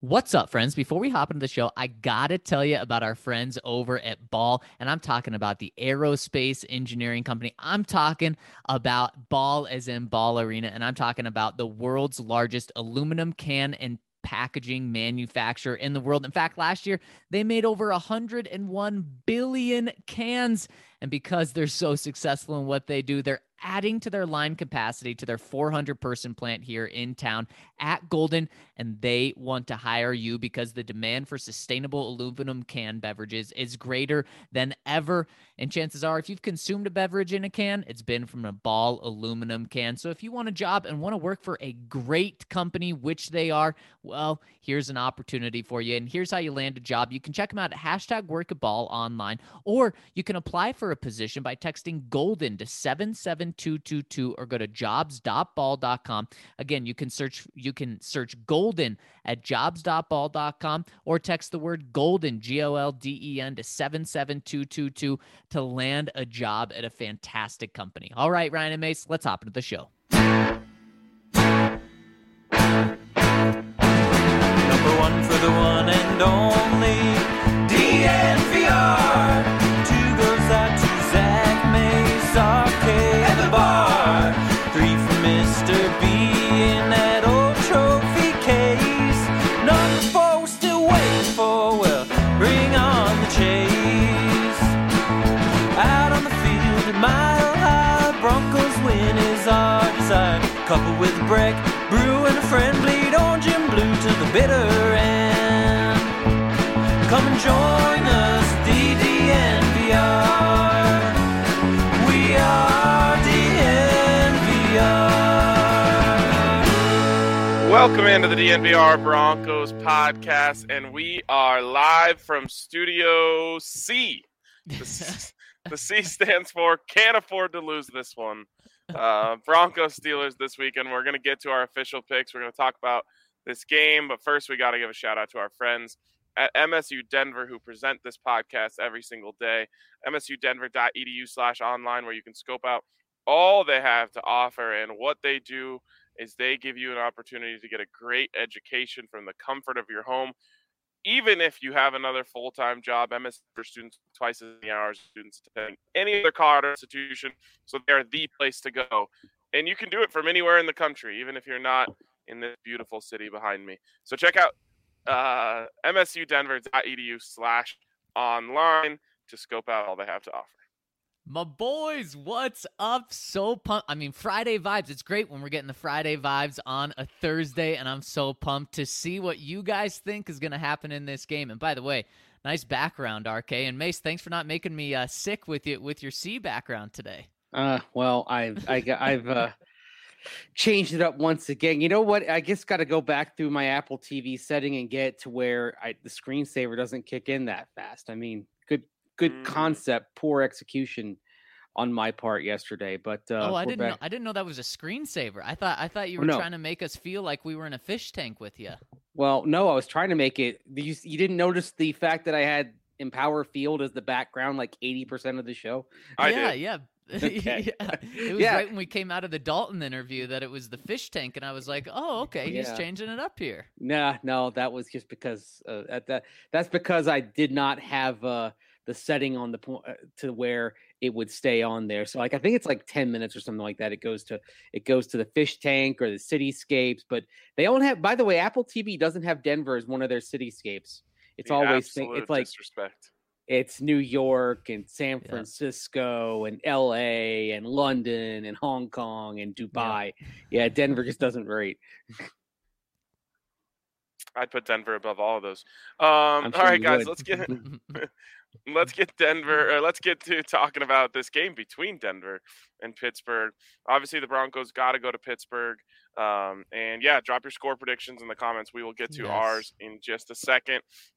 What's up, friends? Before we hop into the show, I gotta tell you about our friends over at Ball, and I'm talking about the aerospace engineering company. I'm talking about Ball as in Ball Arena, and I'm talking about the world's largest aluminum can and packaging manufacturer in the world. In fact, last year they made over 101 billion cans. And because they're so successful in what they do, they're adding to their line capacity to their 400-person plant here in town at Golden, and they want to hire you because the demand for sustainable aluminum can beverages is greater than ever. And chances are, if you've consumed a beverage in a can, it's been from a Ball aluminum can. So if you want a job and want to work for a great company, which they are, well, here's an opportunity for you. And here's how you land a job. You can check them out at #WorkAtBall online, or you can apply for a position by texting GOLDEN to 77222 or go to jobs.ball.com. Again, you can search Golden at jobs.ball.com or text the word Golden, GOLDEN, to 77222 to land a job at a fantastic company. All right, Ryan and Mace, let's hop into the show. Number one for the one and only DNVR. Two goes out to Zach Mace, RK, and the bar. Three for Mr. B in that old trophy case. Number four we're still waiting for, well, bring on the chase. Out on the field at Mile High, Broncos win is our desire. Couple with a break, brew and a friend, bleed orange and blue to the bitter end. Come and join us, DNVR. We are DNVR. Welcome into the DNVR Broncos podcast, and we are live from Studio C. The C stands for can't afford to lose this one. Broncos Steelers this weekend. We're going to get to our official picks. We're going to talk about this game, but first we got to give a shout out to our friends at MSU Denver who present this podcast every single day. msudenver.edu/online, where you can scope out all they have to offer. And what they do is they give you an opportunity to get a great education from the comfort of your home. Even if you have another full-time job, MSU for students twice as many hours as students attending any other college institution, so they're the place to go. And you can do it from anywhere in the country, even if you're not in this beautiful city behind me. So check out msudenver.edu/online to scope out all they have to offer. My boys, what's up? So pumped. I mean, Friday vibes. It's great when we're getting the Friday vibes on a Thursday, and I'm so pumped to see what you guys think is going to happen in this game. And by the way, nice background, RK. And Mace, thanks for not making me sick with your C background today. Well, I've changed it up once again. You know what? I just got to go back through my Apple TV setting and get to where the screensaver doesn't kick in that fast. I mean, good concept, poor execution on my part yesterday. But I didn't know that was a screensaver. I thought you were trying to make us feel like we were in a fish tank with you. Well, no, I was trying to make it. You didn't notice the fact that I had Empower Field as the background like 80% of the show? Yeah. Okay. Yeah. It was right when we came out of the Dalton interview that it was the fish tank, and I was like, oh, okay, he's changing it up here. No, that was just because that's because I did not have the setting on the point to where it would stay on there. So like I think it's like 10 minutes or something like that. It goes to the fish tank or the cityscapes, but they don't have. By the way, Apple TV doesn't have Denver as one of their cityscapes. It's always it's like disrespect. It's New York and San Francisco and LA and London and Hong Kong and Dubai. Yeah, Denver just doesn't rate. I'd put Denver above all of those. All right, guys, let's get Denver. Let's get to talking about this game between Denver and Pittsburgh. Obviously, the Broncos got to go to Pittsburgh. And yeah, drop your score predictions in the comments. We will get to ours in just a second.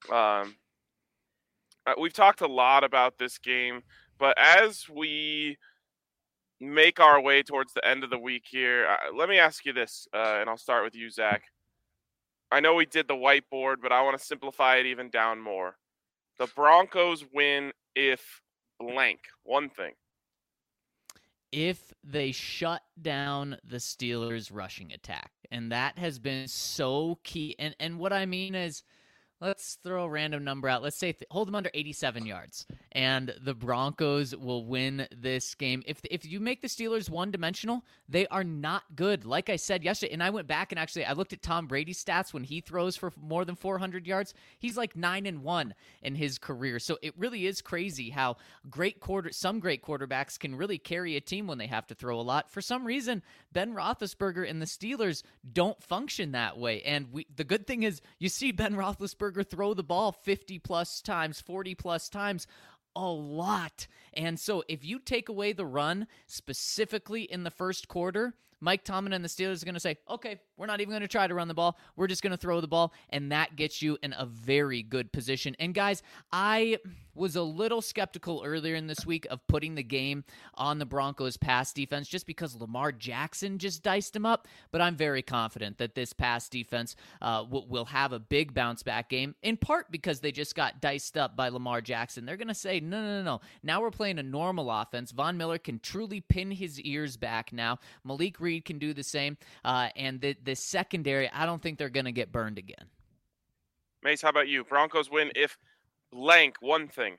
We've talked a lot about this game, but as we make our way towards the end of the week here, let me ask you this, and I'll start with you, Zach. I know we did the whiteboard, but I want to simplify it even down more. The Broncos win if blank, one thing. if they shut down the Steelers' rushing attack. And that has been so key. And what I mean is, let's throw a random number out. Let's say hold them under 87 yards, and the Broncos will win this game. If you make the Steelers one-dimensional, they are not good. Like I said yesterday, and I went back and actually I looked at Tom Brady's stats when he throws for more than 400 yards. He's like 9-1 in his career. So it really is crazy how some great quarterbacks can really carry a team when they have to throw a lot. For some reason, Ben Roethlisberger and the Steelers don't function that way. And the good thing is you see Ben Roethlisberger throw the ball 50 plus times, 40 plus times, a lot. And so if you take away the run specifically in the first quarter, Mike Tomlin and the Steelers are going to say, okay, we're not even going to try to run the ball. We're just going to throw the ball. And that gets you in a very good position. And guys, I was a little skeptical earlier in this week of putting the game on the Broncos pass defense just because Lamar Jackson just diced him up. But I'm very confident that this pass defense will have a big bounce back game, in part because they just got diced up by Lamar Jackson. They're going to say, no. Now we're playing a normal offense. Von Miller can truly pin his ears back now. Malik Reed can do the same. And the secondary, I don't think they're going to get burned again. Mace, how about you? Broncos win if blank one thing.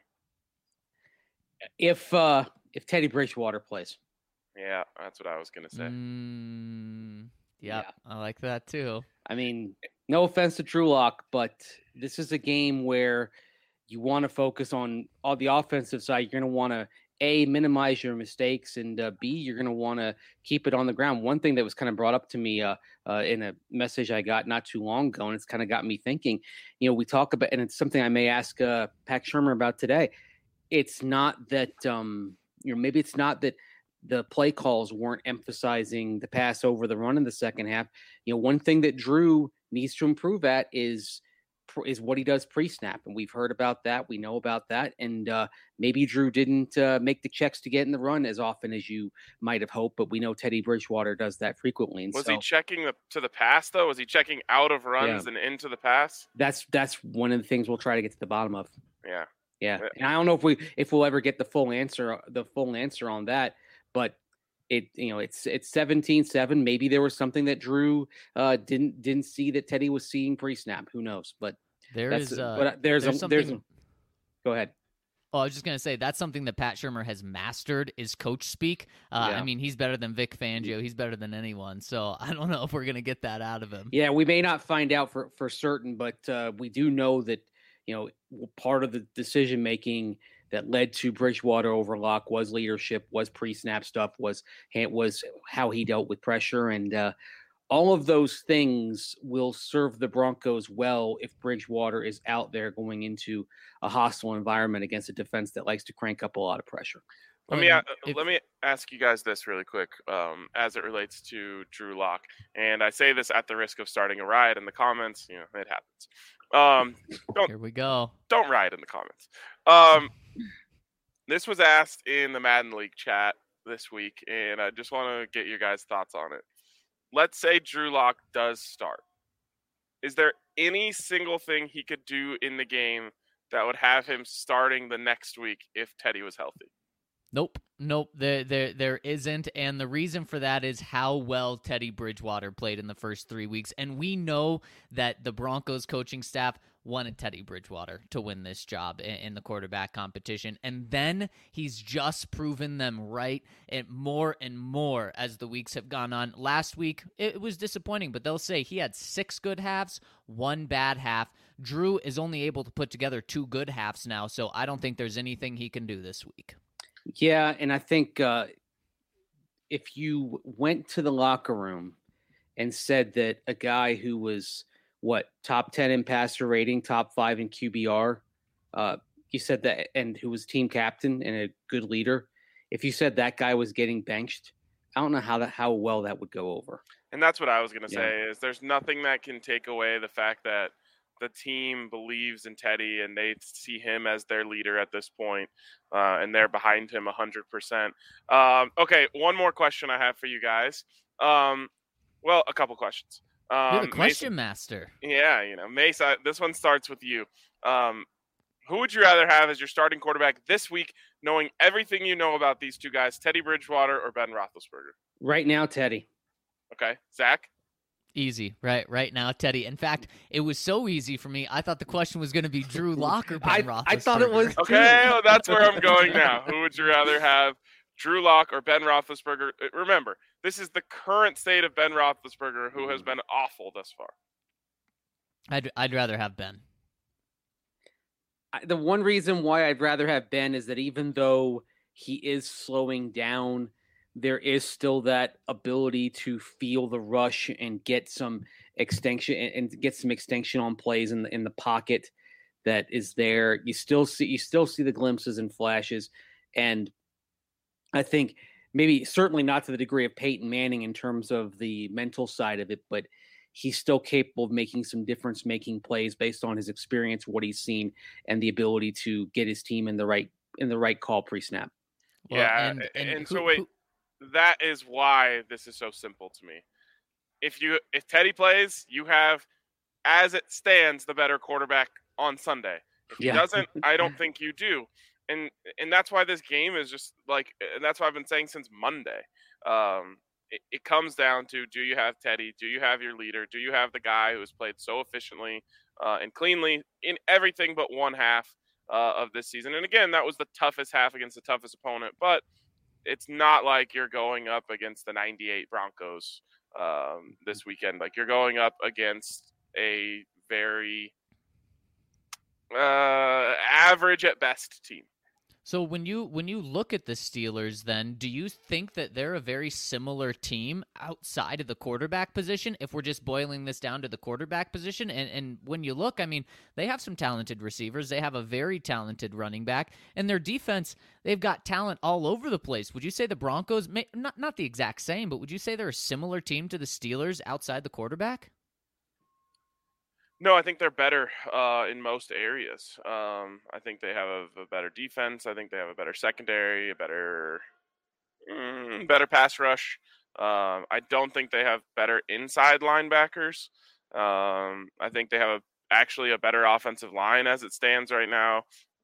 If Teddy Bridgewater plays. Yeah, that's what I was going to say. Yeah, I like that too. I mean, no offense to Drew Lock, but this is a game where you want to focus on the offensive side. You're going to want to, A, minimize your mistakes, and B, you're going to want to keep it on the ground. One thing that was kind of brought up to me in a message I got not too long ago, and it's kind of got me thinking, we talk about, and it's something I may ask Pat Shurmur about today. It's not that, maybe it's not that the play calls weren't emphasizing the pass over the run in the second half. One thing that Drew needs to improve at is what he does pre-snap. And we've heard about that. We know about that. And maybe Drew didn't make the checks to get in the run as often as you might have hoped, but we know Teddy Bridgewater does that frequently. And was he checking to the pass, though? Was he checking out of runs and into the pass? That's one of the things we'll try to get to the bottom of. Yeah. And I don't know if we'll ever get the full answer on that, but it's 17-7. Maybe there was something that Drew didn't see that Teddy was seeing pre-snap. Who knows? But there's something. Go ahead. Oh, I was just going to say that's something that Pat Shurmur has mastered is coach speak. I mean, he's better than Vic Fangio. He's better than anyone. So I don't know if we're going to get that out of him. Yeah, we may not find out for certain, but we do know that, part of the decision-making that led to Bridgewater over Lock was leadership, was pre-snap stuff, was how he dealt with pressure. And all of those things will serve the Broncos well if Bridgewater is out there going into a hostile environment against a defense that likes to crank up a lot of pressure. Let me ask you guys this really quick as it relates to Drew Lock. And I say this at the risk of starting a riot in the comments. It happens. Here we go. Don't riot in the comments. This was asked in the Madden League chat this week, and I just want to get your guys' thoughts on it. Let's say Drew Lock does start. Is there any single thing he could do in the game that would have him starting the next week if Teddy was healthy? Nope. There isn't. And the reason for that is how well Teddy Bridgewater played in the first 3 weeks. And we know that the Broncos coaching staff wanted Teddy Bridgewater to win this job in the quarterback competition. And then he's just proven them right and more as the weeks have gone on. Last week, it was disappointing, but they'll say he had 6 good halves, 1 bad half. Drew is only able to put together 2 good halves now, so I don't think there's anything he can do this week. Yeah, and I think if you went to the locker room and said that a guy who was, top 10 in passer rating, top 5 in QBR, you said that, and who was team captain and a good leader, if you said that guy was getting benched, I don't know how well that would go over. And that's what I was going to say, is there's nothing that can take away the fact that the team believes in Teddy and they see him as their leader at this point, and they're behind him 100%. Okay, one more question I have for you guys. Well, a couple questions. You're the question master. Yeah, Mace, this one starts with you. Who would you rather have as your starting quarterback this week, knowing everything you know about these two guys, Teddy Bridgewater or Ben Roethlisberger? Right now, Teddy. Okay, Zach? Easy, right now, Teddy. In fact, it was so easy for me. I thought the question was going to be Drew Lock or Ben Roethlisberger. I thought it was. Okay, well, that's where I'm going now. Who would you rather have, Drew Lock or Ben Roethlisberger? Remember, this is the current state of Ben Roethlisberger, who has been awful thus far. I'd rather have Ben. The one reason why I'd rather have Ben is that even though he is slowing down, there is still that ability to feel the rush and get some extension on plays in the pocket that is there. You still see the glimpses and flashes, and I think certainly not to the degree of Peyton Manning in terms of the mental side of it, but he's still capable of making some difference-making plays based on his experience, what he's seen, and the ability to get his team in the right call pre-snap. Well, yeah, and so wait. That is why this is so simple to me. If Teddy plays, you have, as it stands, the better quarterback on Sunday. If he doesn't, I don't think you do. And that's why this game is just like, and that's what I've been saying since Monday. It comes down to, do you have Teddy? Do you have your leader? Do you have the guy who has played so efficiently and cleanly in everything but one half of this season? And again, that was the toughest half against the toughest opponent, but it's not like you're going up against the 98 Broncos this weekend. Like, you're going up against a very average at best team. So when you look at the Steelers, then, do you think that they're a very similar team outside of the quarterback position, if we're just boiling this down to the quarterback position? And when you look, I mean, they have some talented receivers. They have a very talented running back. And their defense, they've got talent all over the place. Would you say the Broncos, not the exact same, but would you say they're a similar team to the Steelers outside the quarterback? No, I think they're better in most areas. I think they have a better defense. I think they have a better secondary, a better pass rush. I don't think they have better inside linebackers. I think they have actually a better offensive line as it stands right now.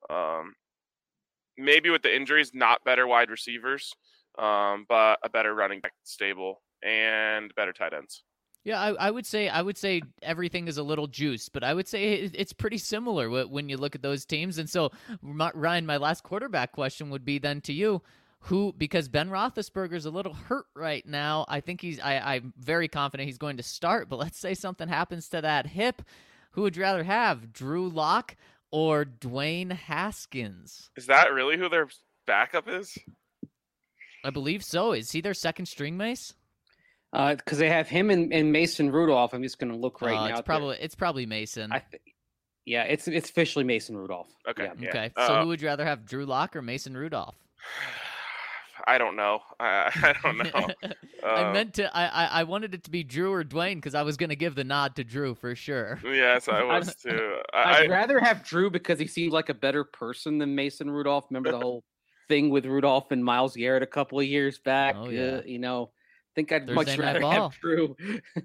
Maybe with the injuries, not better wide receivers, but a better running back stable and better tight ends. Yeah, I would say everything is a little juiced, but I would say it's pretty similar when you look at those teams. And so, Ryan, my last quarterback question would be then to you, because Ben Roethlisberger's a little hurt right now. I think I'm very confident he's going to start, but let's say something happens to that hip. Who would you rather have, Drew Lock or Dwayne Haskins? Is that really who their backup is? I believe so. Is he their second string, Mace? Because they have him and Mason Rudolph. I'm just going to look right now. It's probably Mason. It's officially Mason Rudolph. Okay. Yeah. Okay. So who would you rather have, Drew Lock or Mason Rudolph? I don't know. I don't know. I wanted it to be Drew or Dwayne because I was going to give the nod to Drew for sure. Yes, I was too. I'd rather have Drew because he seemed like a better person than Mason Rudolph. Remember the whole thing with Rudolph and Myles Garrett a couple of years back? Oh, yeah. I think I'd much rather have Drew.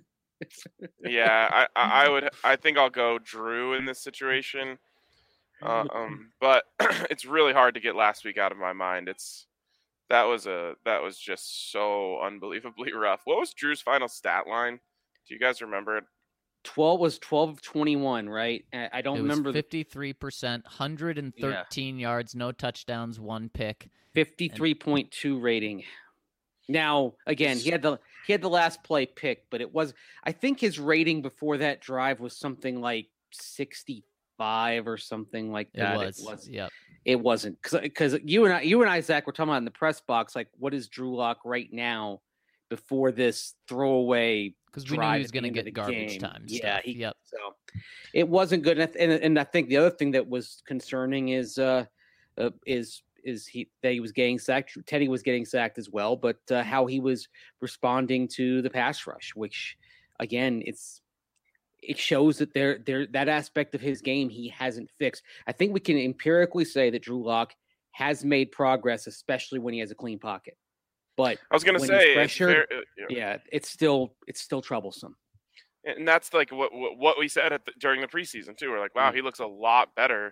Yeah, I think I'll go Drew in this situation. But it's really hard to get last week out of my mind. That was just so unbelievably rough. What was Drew's final stat line? Do you guys remember it? 12 of 21, right? I don't remember. 53%, 113 yards, no touchdowns, one pick. 53.2 rating. Now, again, he had the last play pick, but I think his rating before that drive was something like 65 or something like that. It was. Yep. It wasn't because you and I, Zach, were talking about in the press box, like, what is Drew Lock right now before this throwaway? Because we knew he was going to get garbage time. Yeah. So it wasn't good. And I think the other thing that was concerning is he was getting sacked. Teddy was getting sacked as well, but how he was responding to the pass rush, which again, it shows that that aspect of his game he hasn't fixed. I think we can empirically say that Drew Lock has made progress, especially when he has a clean pocket. But I was going to say, it's still troublesome. And that's like what we said during the preseason too. We're like, wow, he looks a lot better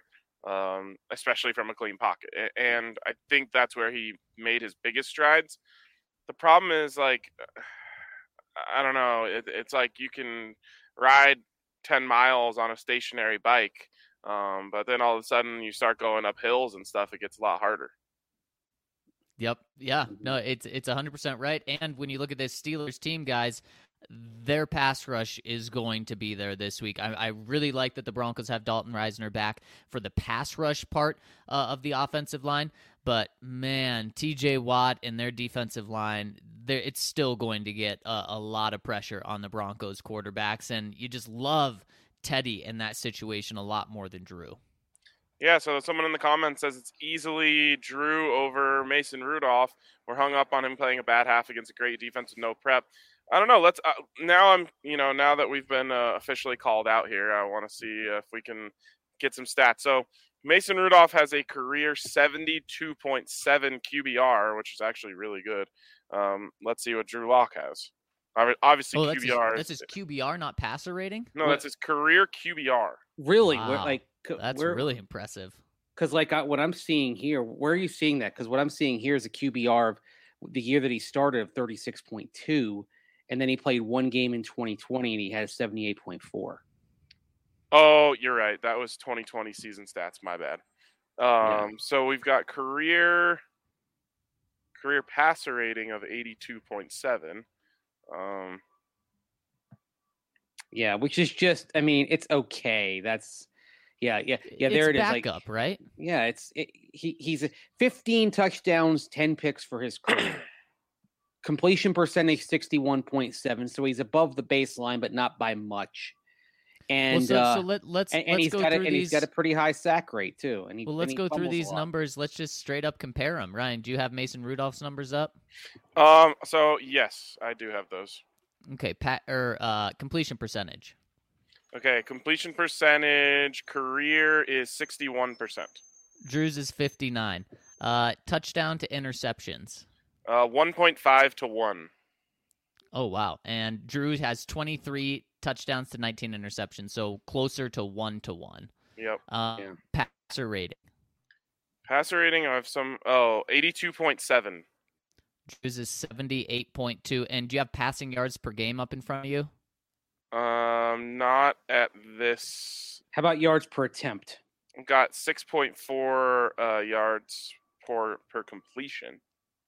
especially from a clean pocket. And I think that's where he made his biggest strides. The problem is, like, I don't know. It's like you can ride 10 miles on a stationary bike, but then all of a sudden you start going up hills and stuff. It gets a lot harder. Yep. Yeah. No, it's 100% right. And when you look at this Steelers team, guys, their pass rush is going to be there this week. I really like that the Broncos have Dalton Risner back for the pass rush part of the offensive line. But, man, TJ Watt and their defensive line, it's still going to get a lot of pressure on the Broncos quarterbacks. And you just love Teddy in that situation a lot more than Drew. Yeah, so someone in the comments says it's easily Drew over Mason Rudolph. We're hung up on him playing a bad half against a great defense with no prep. I don't know. Let's now that we've been officially called out here, I want to see if we can get some stats. So Mason Rudolph has a career 72.7 QBR, which is actually really good. Let's see what Drew Lock has. Obviously, QBR. That's his QBR, not passer rating? No, that's his career QBR. Really? Wow. That's really impressive. Because what I'm seeing here, where are you seeing that? Because what I'm seeing here is a QBR of the year that he started of 36.2, and then he played one game in 2020 and he had 78.4. Oh, you're right. That was 2020 season stats. My bad. So we've got career passer rating of 82.7. Yeah, which is just, I mean, it's okay. That's yeah. There it is. Backup, right? Yeah, he's 15 touchdowns, 10 picks for his career. Completion percentage 61.7, so he's above the baseline, but not by much. And he's got a pretty high sack rate too. And let's go through these numbers. Let's just straight up compare them. Ryan, do you have Mason Rudolph's numbers up? So yes, I do have those. Okay, completion percentage. Okay, completion percentage career is 61%. Drew's is 59. Touchdown to interceptions. 1.5 to 1. Oh wow! And Drew has 23 touchdowns to 19 interceptions, so closer to 1 to 1. Yep. Passer rating. Passer rating of 82.7. Drew's is 78.2. And do you have passing yards per game up in front of you? Not at this. How about yards per attempt? I've got 6.4 yards per completion.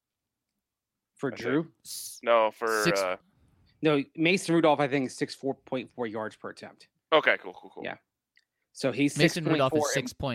For Drew? No, for no, Mason Rudolph, I think, is 6.4 yards per attempt. Okay, cool. Yeah. So he's Mason Rudolph is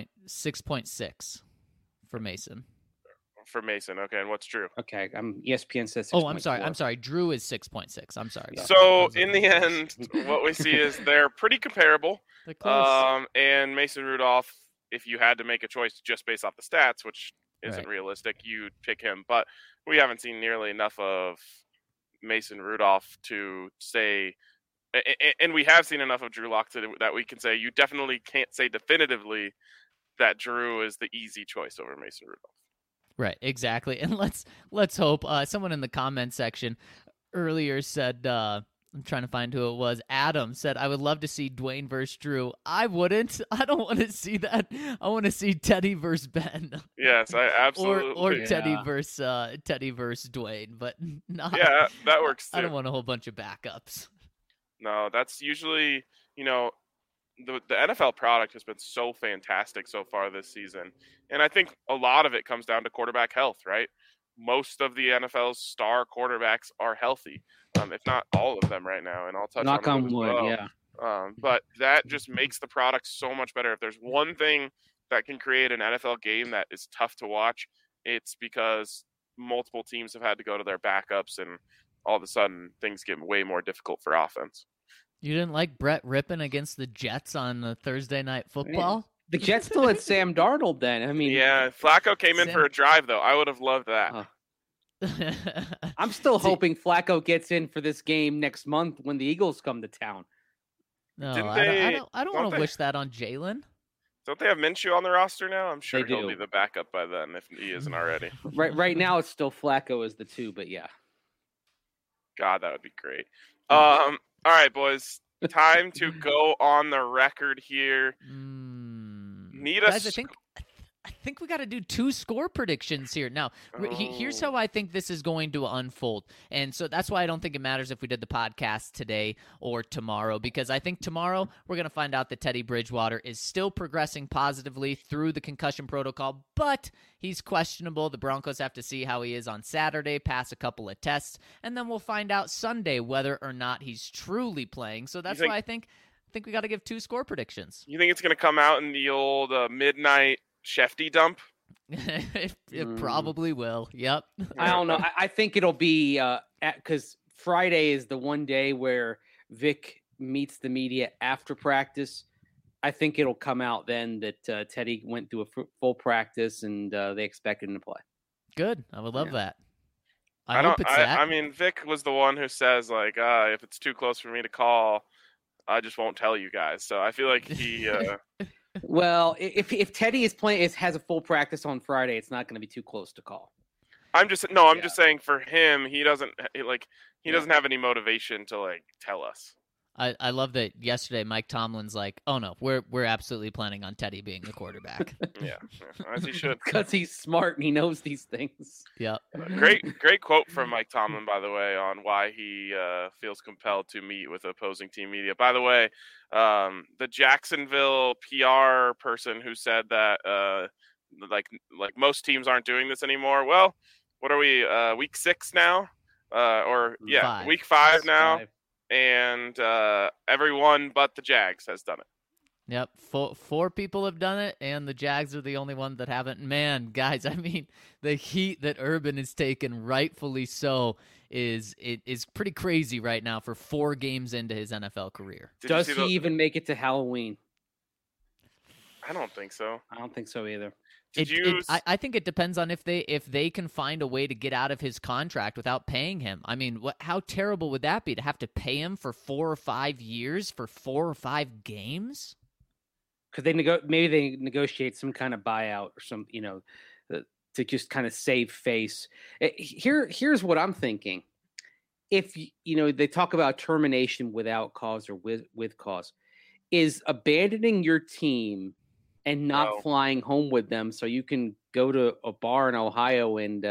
6.6 for Mason. For Mason, okay, and what's Drew? Okay, ESPN says 6.4. Oh, I'm sorry. Drew is 6.6. I'm sorry. So in the end, what we see is they're pretty comparable. They're close. And Mason Rudolph, if you had to make a choice just based off the stats, which isn't realistic, you'd pick him. But we haven't seen nearly enough of Mason Rudolph to say, and we have seen enough of Drew Lock that we can say you definitely can't say definitively that Drew is the easy choice over Mason Rudolph. Right, exactly. And let's hope. Someone in the comment section earlier said, I'm trying to find who it was. Adam said, I would love to see Dwayne versus Drew. I wouldn't. I don't want to see that. I want to see Teddy versus Ben. Yes, I absolutely. or Teddy versus Dwayne, but not. Yeah, that works too. I don't want a whole bunch of backups. No, that's usually, the NFL product has been so fantastic so far this season. And I think a lot of it comes down to quarterback health, right? Most of the NFL's star quarterbacks are healthy, if not all of them right now. And I'll touch knock on wood, well. yeah. But that just makes the product so much better. If there's one thing that can create an NFL game that is tough to watch, it's because multiple teams have had to go to their backups, and all of a sudden things get way more difficult for offense. You didn't like Brett Rippon against the Jets on the Thursday Night Football? Man, the Jets still had Sam Darnold then. I mean, yeah, Flacco came in for a drive, though. I would have loved that. I'm still hoping Flacco gets in for this game next month when the Eagles come to town. No, I don't want to wish that on Jalen. Don't they have Minshew on the roster now? I'm sure he'll be the backup by then if he isn't already. Right now, it's still Flacco as the 2, but yeah. God, that would be great. All right, boys. Time to go on the record here. Need Guys, us. I think we got to do 2 score predictions here. Now, here's how I think this is going to unfold. And so that's why I don't think it matters if we did the podcast today or tomorrow, because I think tomorrow we're going to find out that Teddy Bridgewater is still progressing positively through the concussion protocol, but he's questionable. The Broncos have to see how he is on Saturday, pass a couple of tests, and then we'll find out Sunday whether or not he's truly playing. So that's why I think we got to give 2 score predictions. You think it's going to come out in the old midnight Shefty dump? It probably will. Yep. I don't know. I think it'll be because Friday is the one day where Vic meets the media after practice. I think it'll come out then that Teddy went through a full practice and they expected him to play. Good. I would love that. I hope it's that. I mean, Vic was the one who says, like, if it's too close for me to call, I just won't tell you guys. So I feel like he. Well, if Teddy is playing, has a full practice on Friday, it's not going to be too close to call. I'm just saying for him, he doesn't have any motivation to like tell us. I love that yesterday Mike Tomlin's like, oh no, we're absolutely planning on Teddy being the quarterback. Yeah, as he should. Because he's smart and he knows these things. Yep. Great quote from Mike Tomlin, by the way, on why he feels compelled to meet with opposing team media. By the way, the Jacksonville PR person who said that like most teams aren't doing this anymore. Well, what are we, week 6 now? Week 5 now. 5. And everyone but the Jags has done it. Yep, 4 people have done it, and the Jags are the only one that haven't. Man, guys, I mean, the heat that Urban is taking, rightfully so, is pretty crazy right now for 4 games into his NFL career. Does he even make it to Halloween? I don't think so. I don't think so either. I think it depends on if they can find a way to get out of his contract without paying him. I mean, how terrible would that be to have to pay him for 4 or 5 years for 4 or 5 games? Because maybe they negotiate some kind of buyout or some, to just kind of save face. Here's what I'm thinking. If they talk about termination without cause or with cause, is abandoning your team and not flying home with them so you can go to a bar in Ohio and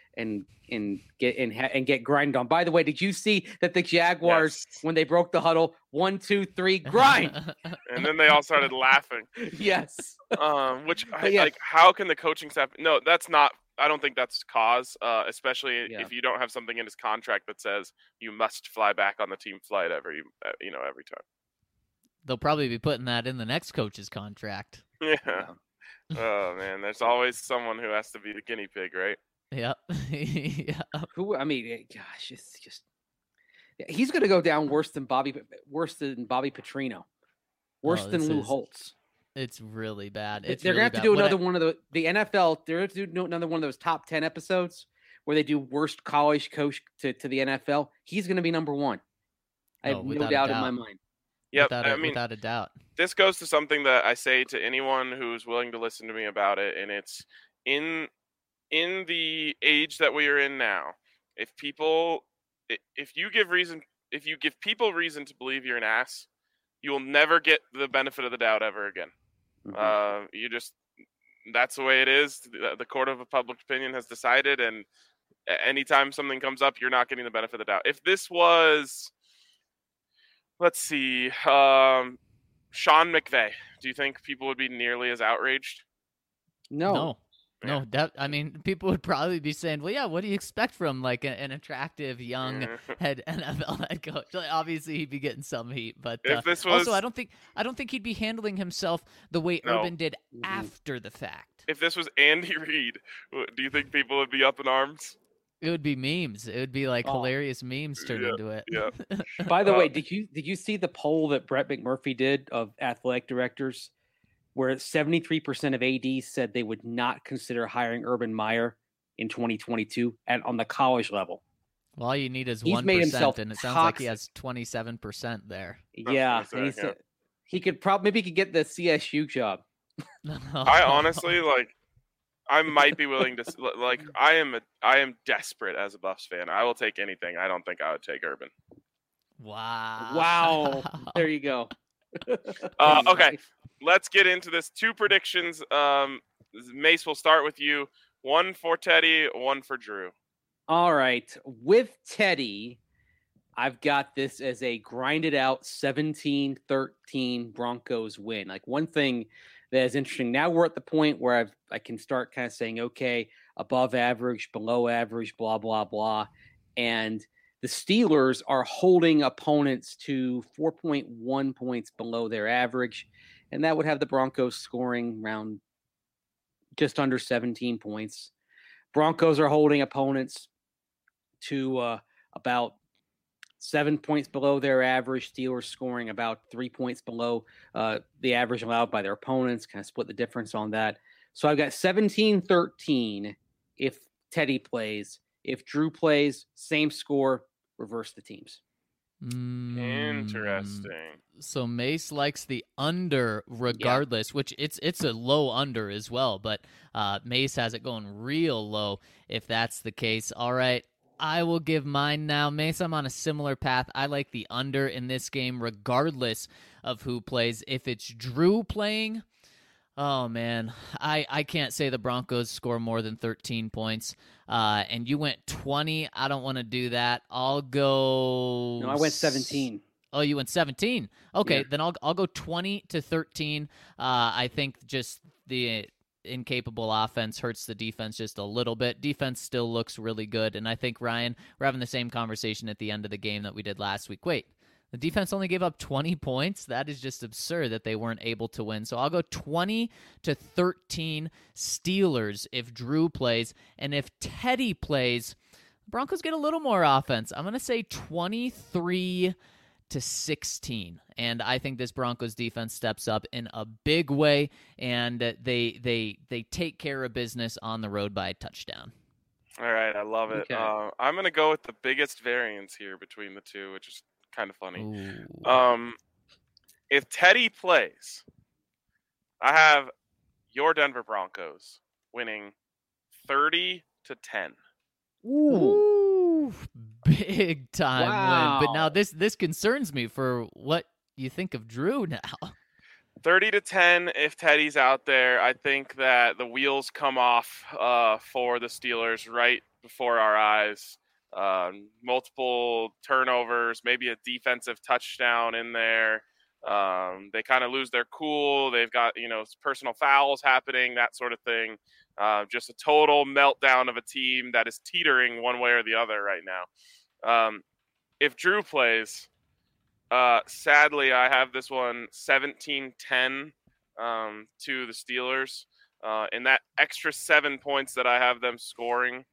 get grinded on. By the way, did you see that the Jaguars, when they broke the huddle, 1, 2, 3, grind, and then they all started laughing? Yes. Like, how can the coaching staff? No, that's not. I don't think that's cause, especially if you don't have something in his contract that says you must fly back on the team flight every time. They'll probably be putting that in the next coach's contract. Yeah. Oh man, there's always someone who has to be the guinea pig, right? Yep. Yeah. Who? I mean, gosh, it's just he's going to go down worse than Bobby Petrino, worse than Lou Holtz. It's really bad. They're going to have to do another one of the NFL. They're going to do another one of those top 10 episodes where they do worst college coach to the NFL. He's going to be number 1. I have no doubt in my mind. Yep, without a doubt. This goes to something that I say to anyone who's willing to listen to me about it, and it's in the age that we are in now. If you give people reason to believe you're an ass, you will never get the benefit of the doubt ever again. Mm-hmm. That's the way it is. The court of public opinion has decided, and anytime something comes up, you're not getting the benefit of the doubt. If this was, let's see, Sean McVay, do you think people would be nearly as outraged? No. I mean, people would probably be saying, well, yeah, what do you expect from like an attractive young NFL head coach? Like, obviously, he'd be getting some heat, but also I don't think he'd be handling himself the way Urban did after the fact. If this was Andy Reid, do you think people would be up in arms? It would be memes. It would be like hilarious memes turned into it. Yeah. By the way, did you see the poll that Brett McMurphy did of athletic directors, where 73% of ADs said they would not consider hiring Urban Meyer in 2022 on the college level? Well, all you need is 1%, and it sounds like he has 27% there. Yeah, and he said he could maybe get the CSU job. I honestly I might be willing to I am desperate as a Buffs fan. I will take anything. I don't think I would take Urban. Wow. Wow. There you go. Okay, let's get into this. 2 predictions. Mace, we'll start with you. 1 for Teddy, 1 for Drew. All right. With Teddy, I've got this as a grinded out 17-13 Broncos win. Like, one thing that is interesting, now we're at the point where I can start kind of saying, okay, above average, below average, blah, blah, blah. And the Steelers are holding opponents to 4.1 points below their average. And that would have the Broncos scoring around just under 17 points. Broncos are holding opponents to about 7 points below their average. Steelers scoring about 3 points below the average allowed by their opponents. Kind of split the difference on that. So I've got 17-13 if Teddy plays. If Drew plays, same score, reverse the teams. Interesting. So Mace likes the under regardless, which it's a low under as well, but Mace has it going real low if that's the case. All right, I will give mine now. Mace, I'm on a similar path. I like the under in this game regardless of who plays. If it's Drew playing, oh, man, I can't say the Broncos score more than 13 points. And you went 20. I don't want to do that. I'll go... No, I went 17. Oh, you went 17. Okay, Yeah. then I'll go 20-13. I think just the incapable offense hurts the defense just a little bit. Defense still looks really good, and I think, Ryan, we're having the same conversation at the end of the game that we did last week. Wait, the defense only gave up 20 points? That is just absurd that they weren't able to win. So I'll go 20-13 Steelers if Drew plays, and if Teddy plays, Broncos get a little more offense. I'm going to say 23-16, and I think this Broncos defense steps up in a big way, and they take care of business on the road by a touchdown. All right, I love it. Okay. I'm going to go with the biggest variance here between the two, which is kind of funny. Ooh. If Teddy plays, I have your Denver Broncos winning 30-10. Ooh, big time win. But now Wow. this concerns me for what you think of Drew now. 30-10 if Teddy's out there. I think that the wheels come off for the Steelers right before our eyes. Multiple turnovers, maybe a defensive touchdown in there. They kind of lose their cool. They've got, personal fouls happening, that sort of thing. Just a total meltdown of a team that is teetering one way or the other right now. If Drew plays, sadly, I have this one 17-10 to the Steelers. And that extra 7 points that I have them scoring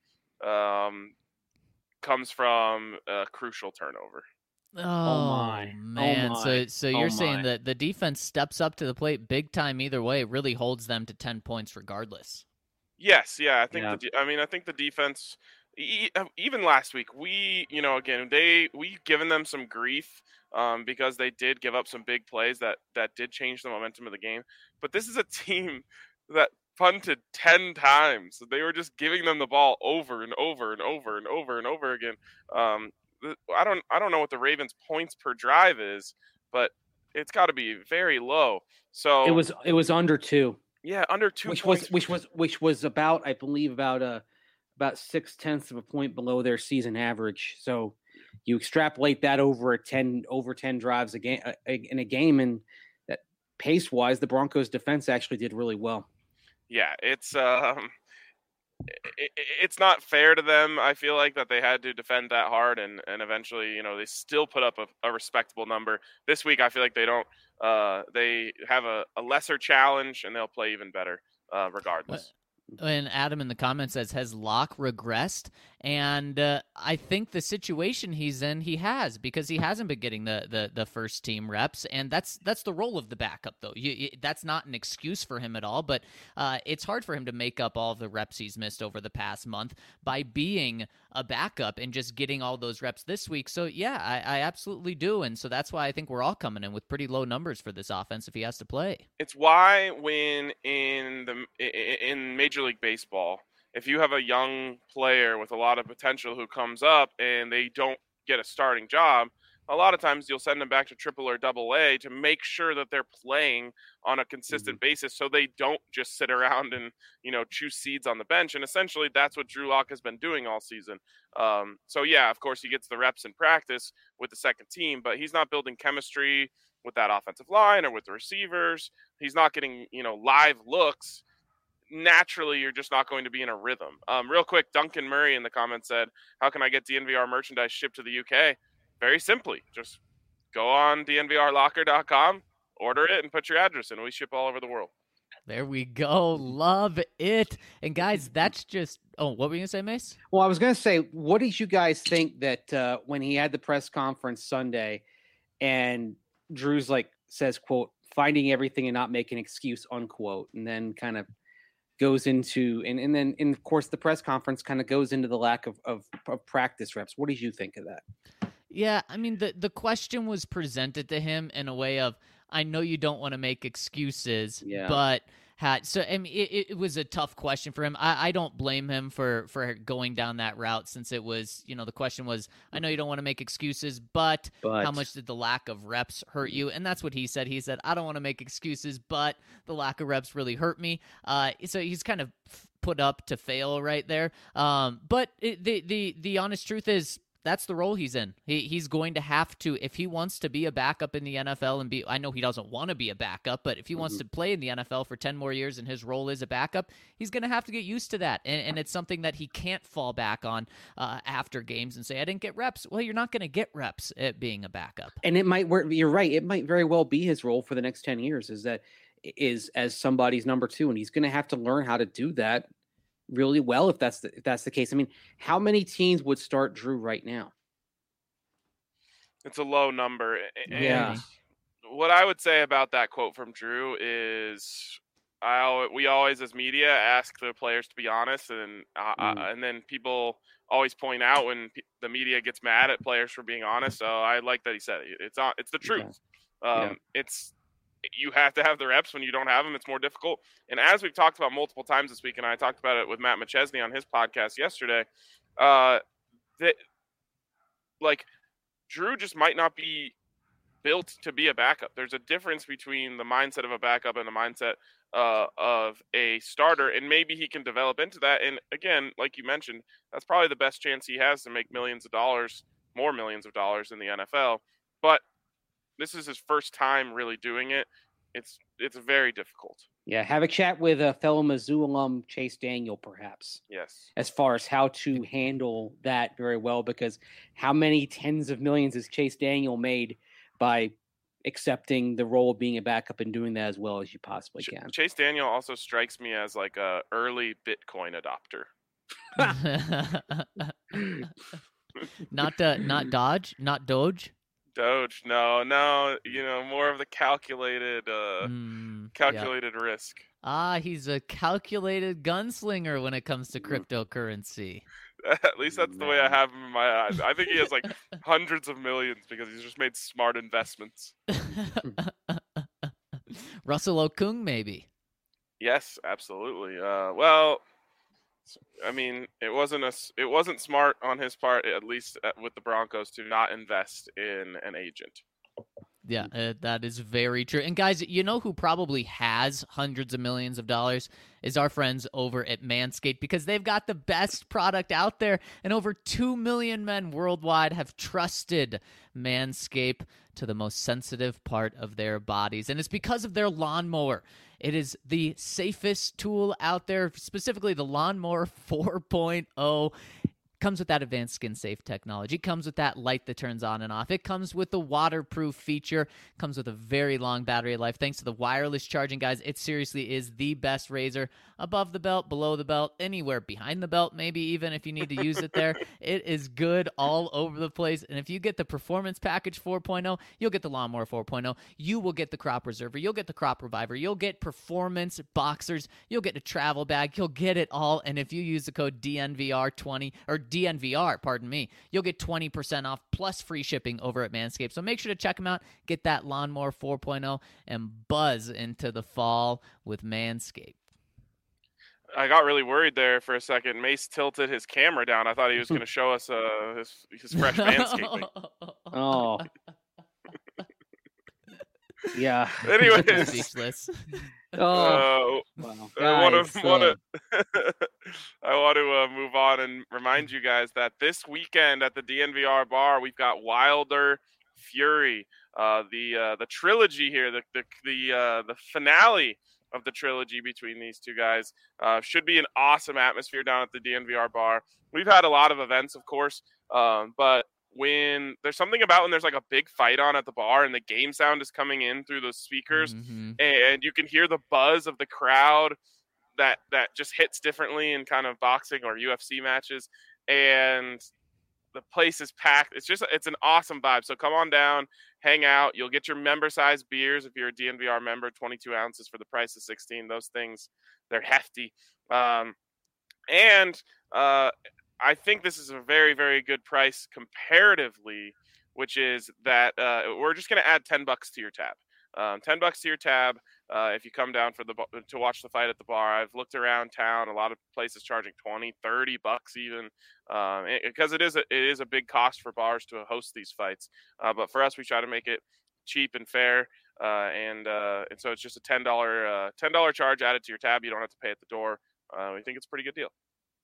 comes from a crucial turnover. Oh, my. man. Oh, my. So you're Oh, saying my. that the defense steps up to the plate big time either way. It really holds them to 10 points regardless. Yes, yeah, I think. Yeah. I think the defense, even last week, we given them some grief because they did give up some big plays that did change the momentum of the game. But this is a team that punted 10 times. They were just giving them the ball over and over and over and over and over again. I don't know what the Ravens' points per drive is, but it's got to be very low. So It was under 2. yeah, under 2 Which points. was about, I believe, about 0.6 of a point below their season average. So you extrapolate that over 10 drives in a game, and that pace wise, the Broncos defense actually did really well. Yeah, it's not fair to them. I feel like that they had to defend that hard, and eventually, they still put up a respectable number. This week, I feel like they don't. They have a lesser challenge, and they'll play even better regardless. And Adam in the comments says, has Locke regressed? And I think the situation he's in, he has, because he hasn't been getting the first team reps, and that's the role of the backup, though. That's not an excuse for him at all, but it's hard for him to make up all of the reps he's missed over the past month by being a backup and just getting all those reps this week. So, yeah, I absolutely do, and so that's why I think we're all coming in with pretty low numbers for this offense if he has to play. It's why when in Major League Baseball, if you have a young player with a lot of potential who comes up and they don't get a starting job, a lot of times you'll send them back to triple or double A to make sure that they're playing on a consistent basis so they don't just sit around and, chew seeds on the bench. And essentially that's what Drew Lock has been doing all season. So yeah, of course he gets the reps in practice with the second team, but he's not building chemistry with that offensive line or with the receivers. He's not getting, live looks. Naturally, you're just not going to be in a rhythm. Real quick, Duncan Murray in the comments said, how can I get DNVR merchandise shipped to the UK? Very simply, just go on dnvrlocker.com, order it, and put your address in. We ship all over the world. There we go. Love it. And guys, that's just – what were you going to say, Mace? Well, I was going to say, what did you guys think that when he had the press conference Sunday and Drew's says, quote, finding everything and not making an excuse, unquote, and then kind of goes into and then of course the press conference kind of goes into the lack of practice reps. What did you think of that? Yeah, I mean the question was presented to him in a way of, I know you don't want to make excuses, but I mean, it was a tough question for him. I don't blame him for going down that route, since it was, the question was, I know you don't want to make excuses, but how much did the lack of reps hurt you? And that's what he said. He said, I don't want to make excuses, but the lack of reps really hurt me. So he's kind of put up to fail right there. But the honest truth is, that's the role he's in. He's going to have to, if he wants to be a backup in the NFL and I know he doesn't want to be a backup, but if he wants to play in the NFL for 10 more years and his role is a backup, he's going to have to get used to that. And it's something that he can't fall back on after games and say, I didn't get reps. Well, you're not going to get reps at being a backup. And it might work. You're right. It might very well be his role for the next 10 years is as somebody's number two. And he's going to have to learn how to do that really well if that's the case. I mean, how many teams would start Drew right now? It's a low number. Yeah. And what I would say about that quote from Drew is we always as media ask the players to be honest, and then people always point out when the media gets mad at players for being honest. So I like that he said it. It's the truth. You have to have the reps. When you don't have them, it's more difficult. And as we've talked about multiple times this week, and I talked about it with Matt McChesney on his podcast yesterday, Drew just might not be built to be a backup. There's a difference between the mindset of a backup and the mindset of a starter, and maybe he can develop into that. And again, like you mentioned, that's probably the best chance he has to make more millions of dollars in the NFL. But this is his first time really doing it. It's very difficult. Yeah, have a chat with a fellow Mizzou alum, Chase Daniel, perhaps. Yes. As far as how to handle that very well, because how many tens of millions has Chase Daniel made by accepting the role of being a backup and doing that as well as you possibly can? Chase Daniel also strikes me as like a early Bitcoin adopter. Not Doge. Doge, no, more of the calculated risk. He's a calculated gunslinger when it comes to cryptocurrency. At least that's the way I have him in my eyes. I think he has like hundreds of millions because he's just made smart investments. Russell Okung, maybe. Yes, absolutely. Well, I mean, it wasn't smart on his part, at least with the Broncos, to not invest in an agent. Yeah, that is very true. And guys, you know who probably has hundreds of millions of dollars is our friends over at Manscaped, because they've got the best product out there, and over 2 million men worldwide have trusted Manscaped to the most sensitive part of their bodies, and it's because of their lawnmower. It is the safest tool out there, specifically the Lawnmower 4.0. Comes with that advanced skin safe technology. It comes with that light that turns on and off. It comes with the waterproof feature. Comes with a very long battery life. Thanks to the wireless charging, guys, it seriously is the best razor. Above the belt, below the belt, anywhere behind the belt, maybe even if you need to use it there. It is good all over the place. And if you get the Performance Package 4.0, you'll get the Lawnmower 4.0. You will get the Crop Preserver. You'll get the Crop Reviver. You'll get Performance Boxers. You'll get a travel bag. You'll get it all. And if you use the code DNVR20 or DNVR, pardon me, you'll get 20% off plus free shipping over at Manscaped. So make sure to check them out. Get that Lawnmower 4.0 and buzz into the fall with Manscaped. I got really worried there for a second. Mace tilted his camera down. I thought he was going to show us his fresh manscaping. Oh. Yeah. Anyways, Speechless. Oh. Wow. Guys, I want to move on and remind you guys that this weekend at the DNVR bar, we've got Wilder Fury, the trilogy here, the finale of the trilogy between these two guys. Should be an awesome atmosphere down at the DNVR bar. We've had a lot of events, of course, but when there's something about when there's like a big fight on at the bar and the game sound is coming in through those speakers, and you can hear the buzz of the crowd that just hits differently in kind of boxing or UFC matches, and the place is packed. It's an awesome vibe. So come on down, hang out. You'll get your member size beers if you're a DNVR member, 22 ounces for the price of 16. Those things, they're hefty. I think this is a very, very good price comparatively, which is that we're just going to add $10 to your tab. $10 to your tab if you come down to watch the fight at the bar. I've looked around town, a lot of places charging $20-$30 even, because it is a big cost for bars to host these fights. But for us, we try to make it cheap and fair, and so it's just a $10 charge added to your tab. You don't have to pay at the door. We think it's a pretty good deal.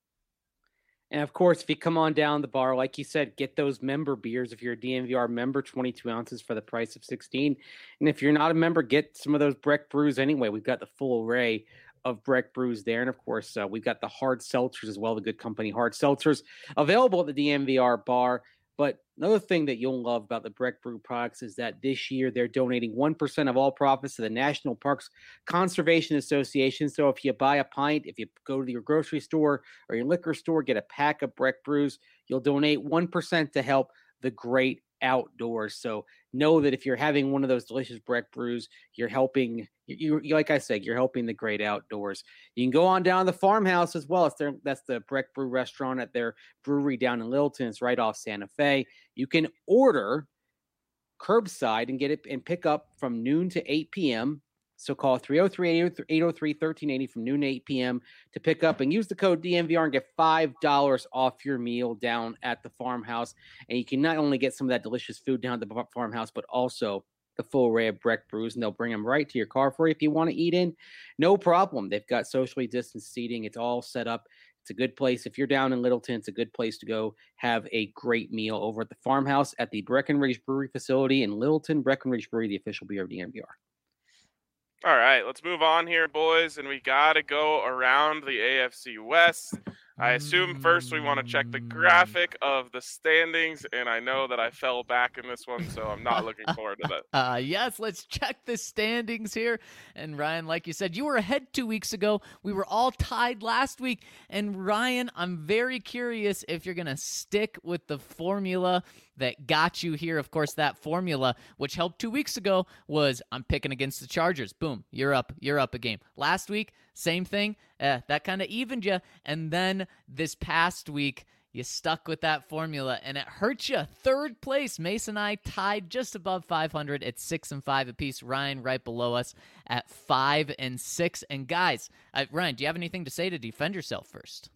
And of course, if you come on down the bar, like you said, get those member beers. If you're a DNVR member, 22 ounces for the price of 16. And if you're not a member, get some of those Breck brews anyway. We've got the full array of Breck brews there. And of course, we've got the hard seltzers as well, the good company hard seltzers available at the DNVR bar. But another thing that you'll love about the Breck Brew products is that this year they're donating 1% of all profits to the National Parks Conservation Association. So if you buy a pint, if you go to your grocery store or your liquor store, get a pack of Breck Brews, you'll donate 1% to help the great outdoors. So know that if you're having one of those delicious Breck Brews, you're helping, like I said, you're helping the great outdoors. You can go on down to the farmhouse as well. That's the Breck Brew restaurant at their brewery down in Littleton. It's right off Santa Fe. You can order curbside and get it and pick up from noon to 8 p.m. So call 303-803-1380 from noon to 8 p.m. to pick up and use the code DNVR and get $5 off your meal down at the farmhouse. And you can not only get some of that delicious food down at the farmhouse, but also the full array of Breck brews, and they'll bring them right to your car for you if you want to eat in. No problem. They've got socially distanced seating. It's all set up. It's a good place. If you're down in Littleton, it's a good place to go have a great meal over at the farmhouse at the Breckenridge Brewery facility in Littleton. Breckenridge Brewery, the official beer of DNVR. All right, let's move on here, boys, and we got to go around the AFC West. I assume first we want to check the graphic of the standings, and I know that I fell back in this one, so I'm not looking forward to that. Yes, let's check the standings here. And Ryan, like you said, you were ahead 2 weeks ago. We were all tied last week. And Ryan, I'm very curious if you're going to stick with the formula that got you here. Of course, that formula, which helped 2 weeks ago, was I'm picking against the Chargers. Boom, you're up a game. Last week, same thing. That kind of evened you. And then this past week, you stuck with that formula, and it hurt you. Third place, Mason and I tied just above 500 at 6-5 apiece. Ryan right below us at 5-6. And guys, Ryan, do you have anything to say to defend yourself first?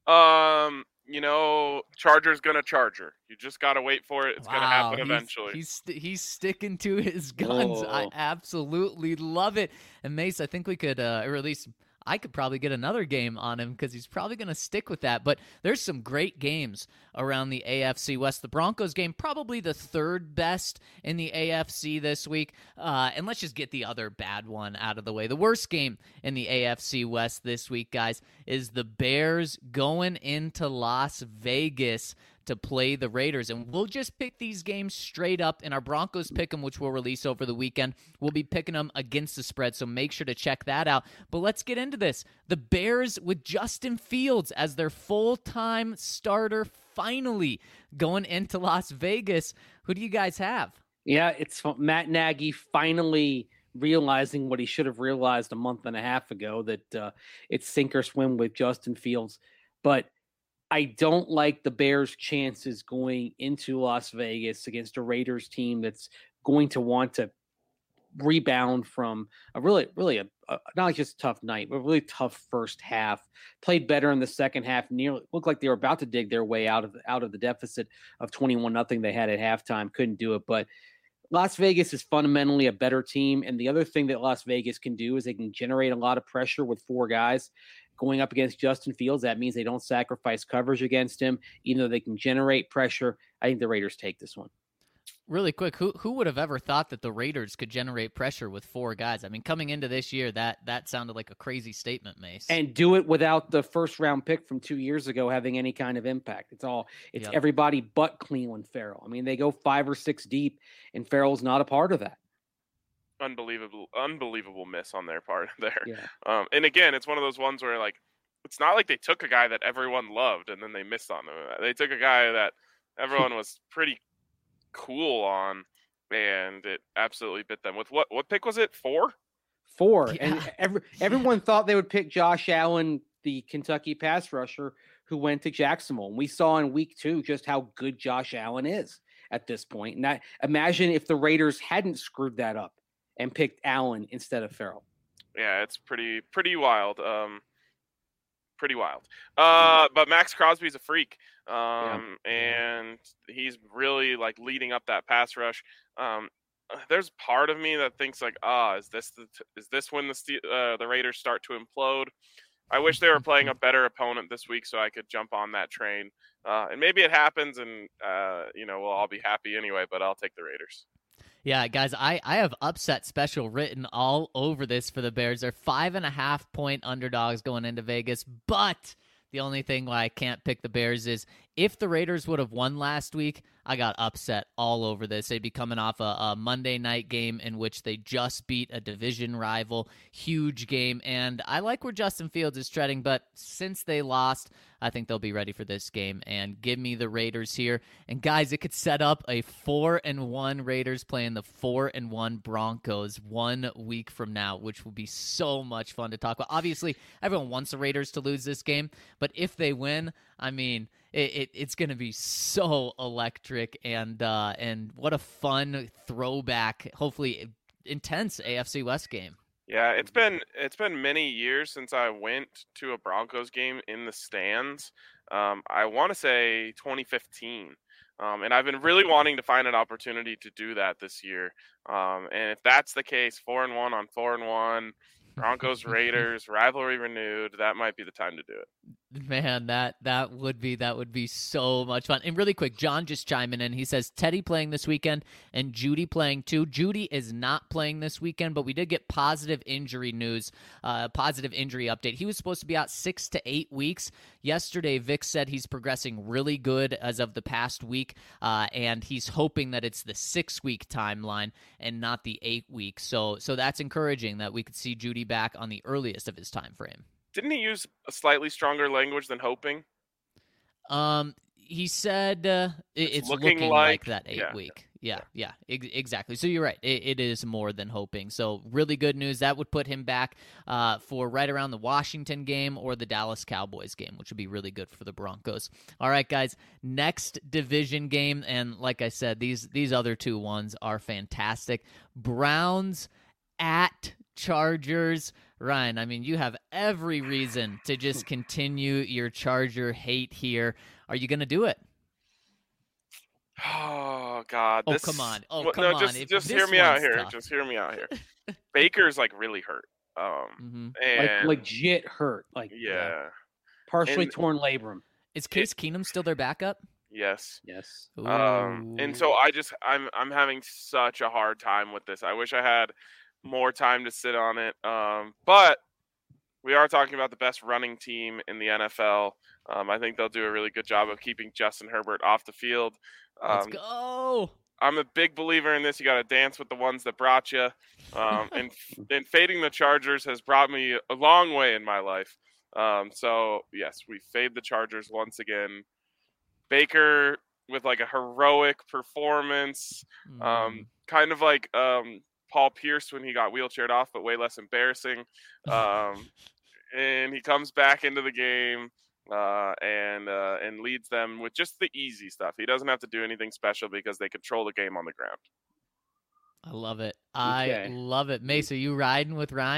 Charger's gonna Charger. You just gotta wait for it. It's gonna happen eventually. He's sticking to his guns. Oh. I absolutely love it. And Mace, I think we could, or at least I could probably get another game on him because he's probably going to stick with that. But there's some great games around the AFC West. The Broncos game, probably the third best in the AFC this week. And let's just get the other bad one out of the way. The worst game in the AFC West this week, guys, is the Bears going into Las Vegas to play the Raiders. And we'll just pick these games straight up. In our Broncos Pick'em, which we'll release over the weekend, we'll be picking them against the spread, so make sure to check that out. But let's get into this. The Bears with Justin Fields as their full-time starter finally going into Las Vegas. Who do you guys have? Yeah, it's Matt Nagy finally realizing what he should have realized a month and a half ago, that it's sink or swim with Justin Fields. But I don't like the Bears' chances going into Las Vegas against a Raiders team that's going to want to rebound from a really not just a tough night, but a really tough first half. Played better in the second half. Nearly looked like they were about to dig their way out of the deficit of 21-0 they had at halftime. Couldn't do it, but Las Vegas is fundamentally a better team. And the other thing that Las Vegas can do is they can generate a lot of pressure with 4 guys going up against Justin Fields. That means they don't sacrifice coverage against him, even though they can generate pressure. I think the Raiders take this one. Really quick, who would have ever thought that the Raiders could generate pressure with 4 guys? I mean, coming into this year, that sounded like a crazy statement, Mace. And do it without the first-round pick from 2 years ago having any kind of impact. It's everybody but Cleveland Farrell. I mean, they go 5 or 6 deep, and Farrell's not a part of that. Unbelievable miss on their part there. Yeah. And again, it's one of those ones where, like, it's not like they took a guy that everyone loved and then they missed on him. They took a guy that everyone was pretty cool on, and it absolutely bit them. With what pick was it? 4? 4. Yeah. And everyone thought they would pick Josh Allen, the Kentucky pass rusher who went to Jacksonville. And we saw in week 2 just how good Josh Allen is at this point. And imagine if the Raiders hadn't screwed that up and picked Allen instead of Farrell. Yeah, it's pretty wild. Pretty wild. But Max Crosby's a freak. And he's really, like, leading up that pass rush. There's part of me that thinks, like, is this when the Raiders start to implode? I wish they were playing a better opponent this week so I could jump on that train. And maybe it happens, and we'll all be happy anyway. But I'll take the Raiders. Yeah, guys, I have upset special written all over this for the Bears. They're 5.5-point underdogs going into Vegas, but the only thing why I can't pick the Bears is if the Raiders would have won last week, I got upset all over this. They'd be coming off a Monday night game in which they just beat a division rival. Huge game. And I like where Justin Fields is treading, but since they lost, I think they'll be ready for this game. And give me the Raiders here. And guys, it could set up a 4-1 Raiders playing the 4-1 Broncos 1 week from now, which will be so much fun to talk about. Obviously, everyone wants the Raiders to lose this game, but if they win, I mean, it's going to be so electric, and what a fun throwback, hopefully intense AFC West game. Yeah, it's been many years since I went to a Broncos game in the stands. I want to say 2015. And I've been really wanting to find an opportunity to do that this year. And if that's the case, 4-1 on 4-1, Broncos Raiders rivalry renewed, that might be the time to do it. Man, that would be so much fun. And really quick, John just chiming in. He says Teddy playing this weekend and Judy playing too. Judy is not playing this weekend, but we did get positive injury news, positive injury update. He was supposed to be out 6 to 8 weeks. Yesterday, Vic said he's progressing really good as of the past week, and he's hoping that it's the 6-week timeline and not the 8-week. So that's encouraging that we could see Judy back on the earliest of his time frame. Didn't he use a slightly stronger language than hoping? He said it's looking like that 8-week. Yeah, exactly. So you're right. It is more than hoping. So really good news. That would put him back for right around the Washington game or the Dallas Cowboys game, which would be really good for the Broncos. All right, guys. Next division game, and like I said, these other 2 ones are fantastic. Browns at Chargers. Ryan, I mean, you have every reason to just continue your Charger hate here. Are you going to do it? Oh, God. Oh, come on. Oh, come on. Just hear me out here. Just hear me out here. Baker's, like, really hurt. And like, legit hurt. Like, yeah. Partially torn labrum. Is Case Keenum still their backup? Yes. Ooh. And so I'm having such a hard time with this. I wish I had more time to sit on it. But we are talking about the best running team in the NFL. I think they'll do a really good job of keeping Justin Herbert off the field. Let's go. I'm a big believer in this. You got to dance with the ones that brought you. And fading the Chargers has brought me a long way in my life. So, yes, we fade the Chargers once again. Baker with, like, a heroic performance, kind of like Paul Pierce when he got wheelchaired off, but way less embarrassing. And he comes back into the game and leads them with just the easy stuff. He doesn't have to do anything special because they control the game on the ground. I love it. I love it. Mace, are you riding with Ryan?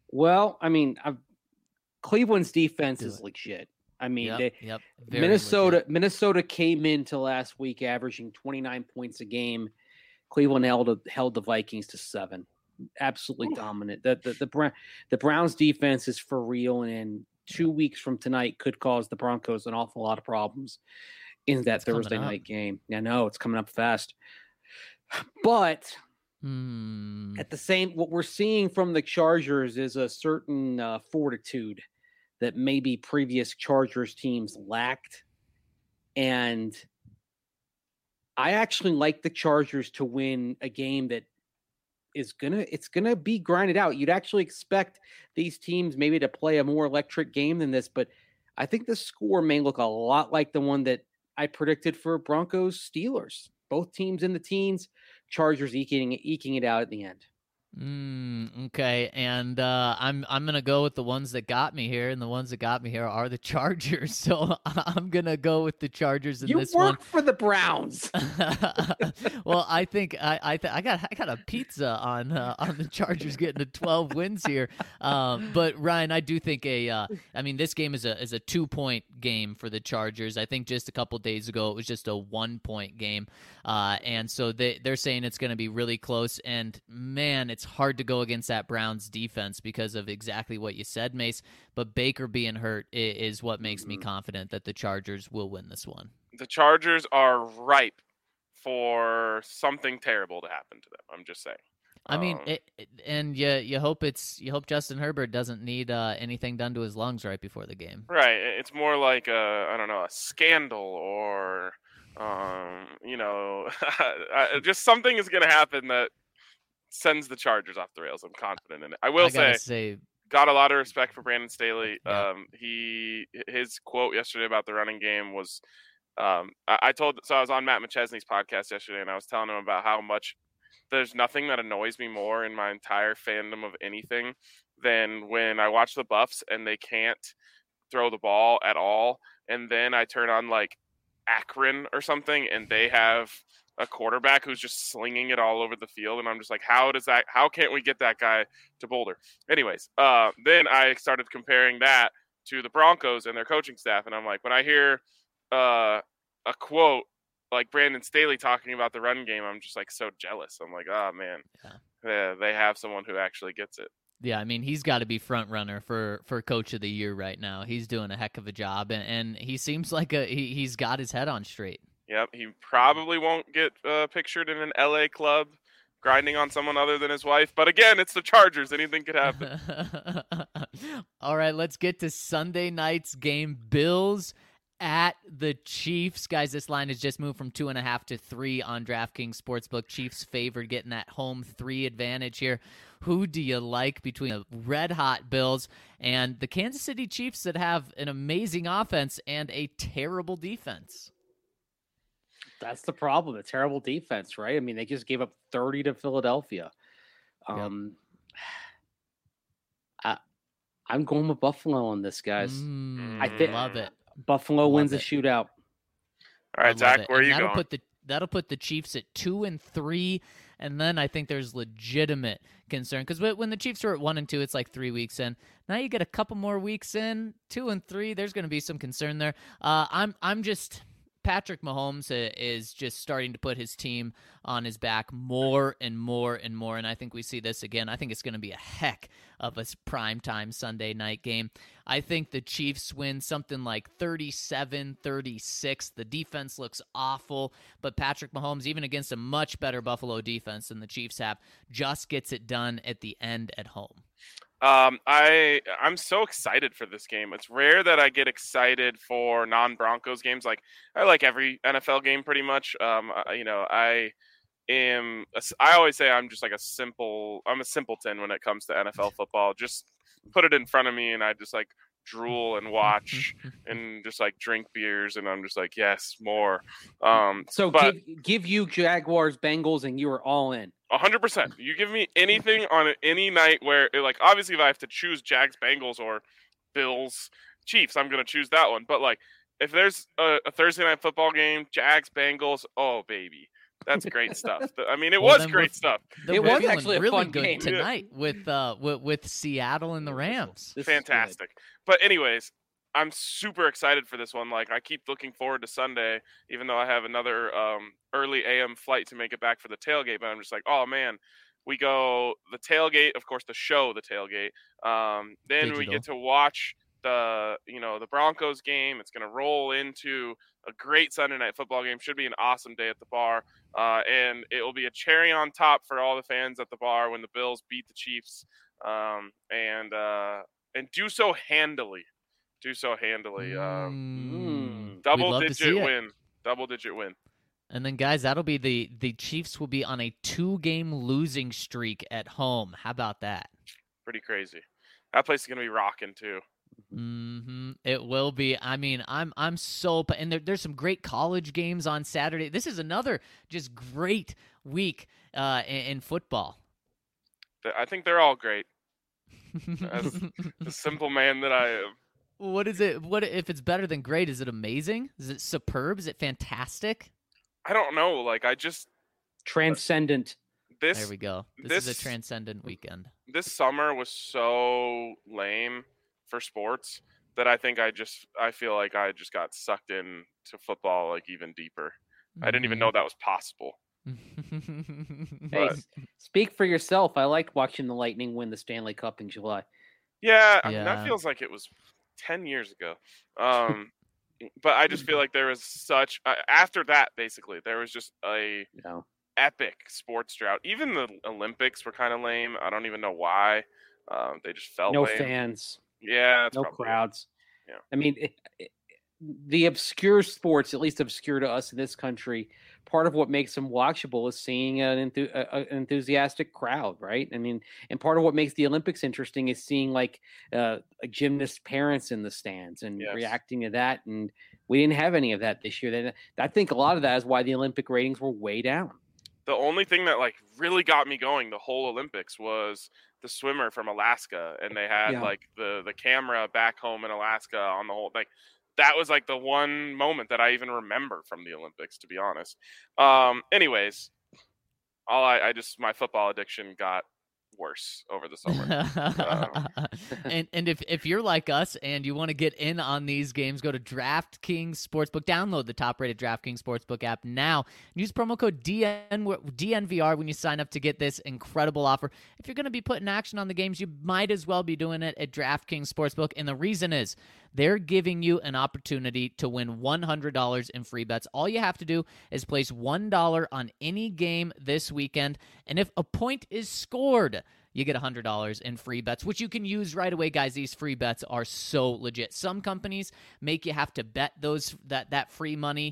Well, I mean, Cleveland's defense Do is it. legit. I mean, Yep. Very Minnesota legit. Minnesota came into last week averaging 29 points a game. Cleveland held the Vikings to 7. Absolutely dominant. The Browns defense is for real, and 2 weeks from tonight could cause the Broncos an awful lot of problems in that It's coming Thursday up. night game. I know it's coming up fast. But at the same, what we're seeing from the Chargers is a certain fortitude that maybe previous Chargers teams lacked. And I actually like the Chargers to win a game that it's gonna be grinded out. You'd actually expect these teams maybe to play a more electric game than this, but I think the score may look a lot like the one that I predicted for Broncos Steelers. Both teams in the teens, Chargers eking it out at the end. Okay, and I'm gonna go with the ones that got me here, and the ones that got me here are the Chargers. So I'm gonna go with the Chargers in this one. You work for the Browns. Well, I think I got a pizza on the Chargers getting to 12 wins here. But Ryan, I do think I mean, this game is a 2-point game for the Chargers. I think just a couple days ago it was just a 1-point game, and so they're saying it's going to be really close. And man, it's hard to go against that Browns defense because of exactly what you said, Mace. But Baker being hurt is what makes me confident that the Chargers will win this one. The Chargers are ripe for something terrible to happen to them. I'm just saying. I mean, you hope Justin Herbert doesn't need anything done to his lungs right before the game. Right. It's more like a scandal or just something is going to happen that sends the Chargers off the rails. I'm confident in it. I will say, got a lot of respect for Brandon Staley. Yeah. His quote yesterday about the running game was, I was on Matt McChesney's podcast yesterday, and I was telling him about how much there's nothing that annoys me more in my entire fandom of anything than when I watch the Buffs and they can't throw the ball at all, and then I turn on like Akron or something, and they have a quarterback who's just slinging it all over the field, and I'm just like, how can't we get that guy to Boulder? Anyways, then I started comparing that to the Broncos and their coaching staff, and I'm like, when I hear a quote like Brandon Staley talking about the run game, I'm just like so jealous. I'm like, oh man, yeah, they have someone who actually gets it. Yeah, I mean, he's got to be front runner for Coach of the Year right now. He's doing a heck of a job, and he seems like he's got his head on straight. Yep, he probably won't get pictured in an LA club grinding on someone other than his wife. But again, it's the Chargers. Anything could happen. All right, let's get to Sunday night's game. Bills at the Chiefs. Guys, this line has just moved from 2.5 to 3 on DraftKings Sportsbook. Chiefs favored, getting that home 3 advantage here. Who do you like between the red-hot Bills and the Kansas City Chiefs that have an amazing offense and a terrible defense? That's the problem. A terrible defense, right? I mean, they just gave up 30 to Philadelphia. I'm going with Buffalo on this, guys. I love it. Buffalo wins the shootout. All right, Zach, where are you going? That'll put the Chiefs at 2-3, and then I think there's legitimate concern because when the Chiefs were at 1-2, it's like 3 weeks in. Now you get a couple more weeks in, 2-3. There's going to be some concern there. Patrick Mahomes is just starting to put his team on his back more and more and more, and I think we see this again. I think it's going to be a heck of a primetime Sunday night game. I think the Chiefs win something like 37-36. The defense looks awful, but Patrick Mahomes, even against a much better Buffalo defense than the Chiefs have, just gets it done at the end at home. I'm so excited for this game. It's rare that I get excited for non-Broncos games. Like I like every NFL game pretty much. I always say I'm just like a simpleton when it comes to NFL football. Just put it in front of me and I just like drool and watch and just like drink beers and I'm just like, yes, more. Give you Jaguars, Bengals, and you are all in. 100%. You give me anything on any night where, like, obviously if I have to choose Jags, Bengals, or Bills, Chiefs, I'm going to choose that one. But, like, if there's a Thursday night football game, Jags, Bengals, oh, baby. That's great stuff. I mean, it Well, was then great stuff. It we're was feeling actually a really fun good game. tonight with Seattle and the Rams. This is good. Fantastic. But anyways, I'm super excited for this one. Like, I keep looking forward to Sunday, even though I have another early AM flight to make it back for the tailgate. But I'm just like, oh man, we go the tailgate, of course, the tailgate. Then we Digital. get to watch the Broncos game. It's gonna roll into a great Sunday night football game. Should be an awesome day at the bar, and it will be a cherry on top for all the fans at the bar when the Bills beat the Chiefs, and do so handily. We'd Double love to see digit it. win. Double digit win. And then, guys, that'll be the Chiefs will be on a 2-game losing streak at home. How about that? Pretty crazy. That place is gonna be rocking too. It will be. I mean, I'm so and there's some great college games on Saturday. This is another just great week in football. I think they're all great. As the simple man that I am. What is it? What if it's better than great? Is it amazing? Is it superb? Is it fantastic? I don't know. Like, I just Transcendent. There we go. This is a this- transcendent weekend. this summer was so lame for sports that I think I feel like I just got sucked in to football like even deeper. I didn't even know that was possible. Hey, But- speak for yourself. I liked watching the Lightning win the Stanley Cup in July. Yeah, I mean, Yeah. that feels like it was 10 years ago. But I just feel like there was such after that, basically there was just a You know, epic sports drought. Even the Olympics were kind of lame. I don't even know why. They just felt no lame. fans, Yeah, that's no probably it. crowds. Yeah. I mean, the obscure sports, at least obscure to us in this country, part of what makes them watchable is seeing an enthusiastic crowd, right? I mean, and part of what makes the Olympics interesting is seeing like gymnast parents in the stands and Yes. reacting to that. And we didn't have any of that this year. Then I think a lot of that is why the Olympic ratings were way down. The only thing that like really got me going the whole Olympics was the swimmer from Alaska, and they had Yeah. like the camera back home in Alaska on the whole like that was like the one moment that I even remember from the Olympics, to be honest. Anyways, I just my football addiction got worse over the summer. and if you're like us and you want to get in on these games, go to DraftKings Sportsbook. Download the top-rated DraftKings Sportsbook app now. Use promo code DNVR when you sign up to get this incredible offer. If you're going to be putting action on the games, you might as well be doing it at DraftKings Sportsbook. And the reason is they're giving you an opportunity to win $100 in free bets. All you have to do is place $1 on any game this weekend. And if a point is scored, you get $100 in free bets, which you can use right away, guys. These free bets are so legit. Some companies make you have to bet that free money,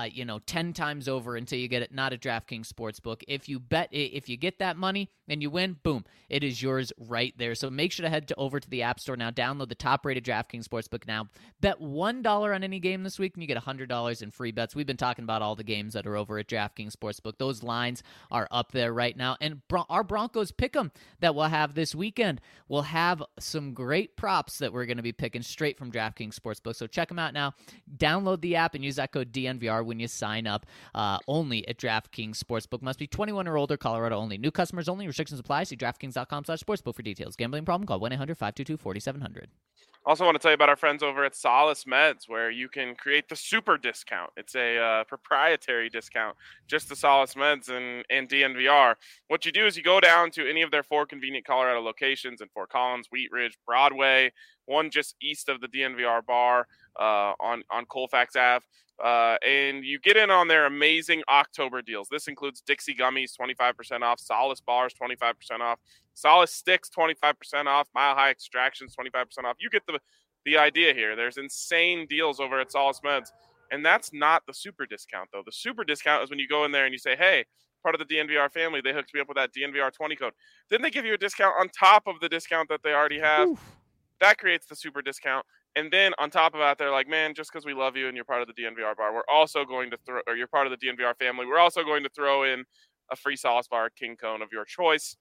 10 times over until you get it. Not a DraftKings Sportsbook. If you get that money and you win, boom, it is yours right there. So make sure to head over to the App Store now. Download the top-rated DraftKings Sportsbook now. Bet $1 on any game this week, and you get $100 in free bets. We've been talking about all the games that are over at DraftKings Sportsbook. Those lines are up there right now, and our Broncos Pick'em that we'll have this weekend will have some great props that we're going to be picking straight from DraftKings Sportsbook. So check them out now. Download the app and use that code DNVR when you sign up. Only at DraftKings Sportsbook. Must be 21 or older. Colorado only. New customers only. Restrictions apply. See DraftKings.com/sportsbook for details. Gambling problem? Call 1-800-522-4700. Also want to tell you about our friends over at Solace Meds, where you can create the super discount. It's a proprietary discount just to Solace Meds and DNVR. What you do is you go down to any of their 4 convenient Colorado locations in Fort Collins, Wheat Ridge, Broadway, one just east of the DNVR bar on Colfax Ave. And you get in on their amazing October deals. This includes Dixie Gummies, 25% off, Solace Bars, 25% off, Solace Sticks, 25% off, Mile High Extractions, 25% off. You get the idea here. There's insane deals over at Solace Meds. And that's not the super discount, though. The super discount is when you go in there and you say, hey, part of the DNVR family, they hooked me up with that DNVR 20 code. Then they give you a discount on top of the discount that they already have. Oof. That creates the super discount. And then on top of that, they're like, man, just because we love you and you're part of the DNVR bar, we're also going to or you're part of the DNVR family, we're also going to throw in a free Solace Bar King Cone of your choice.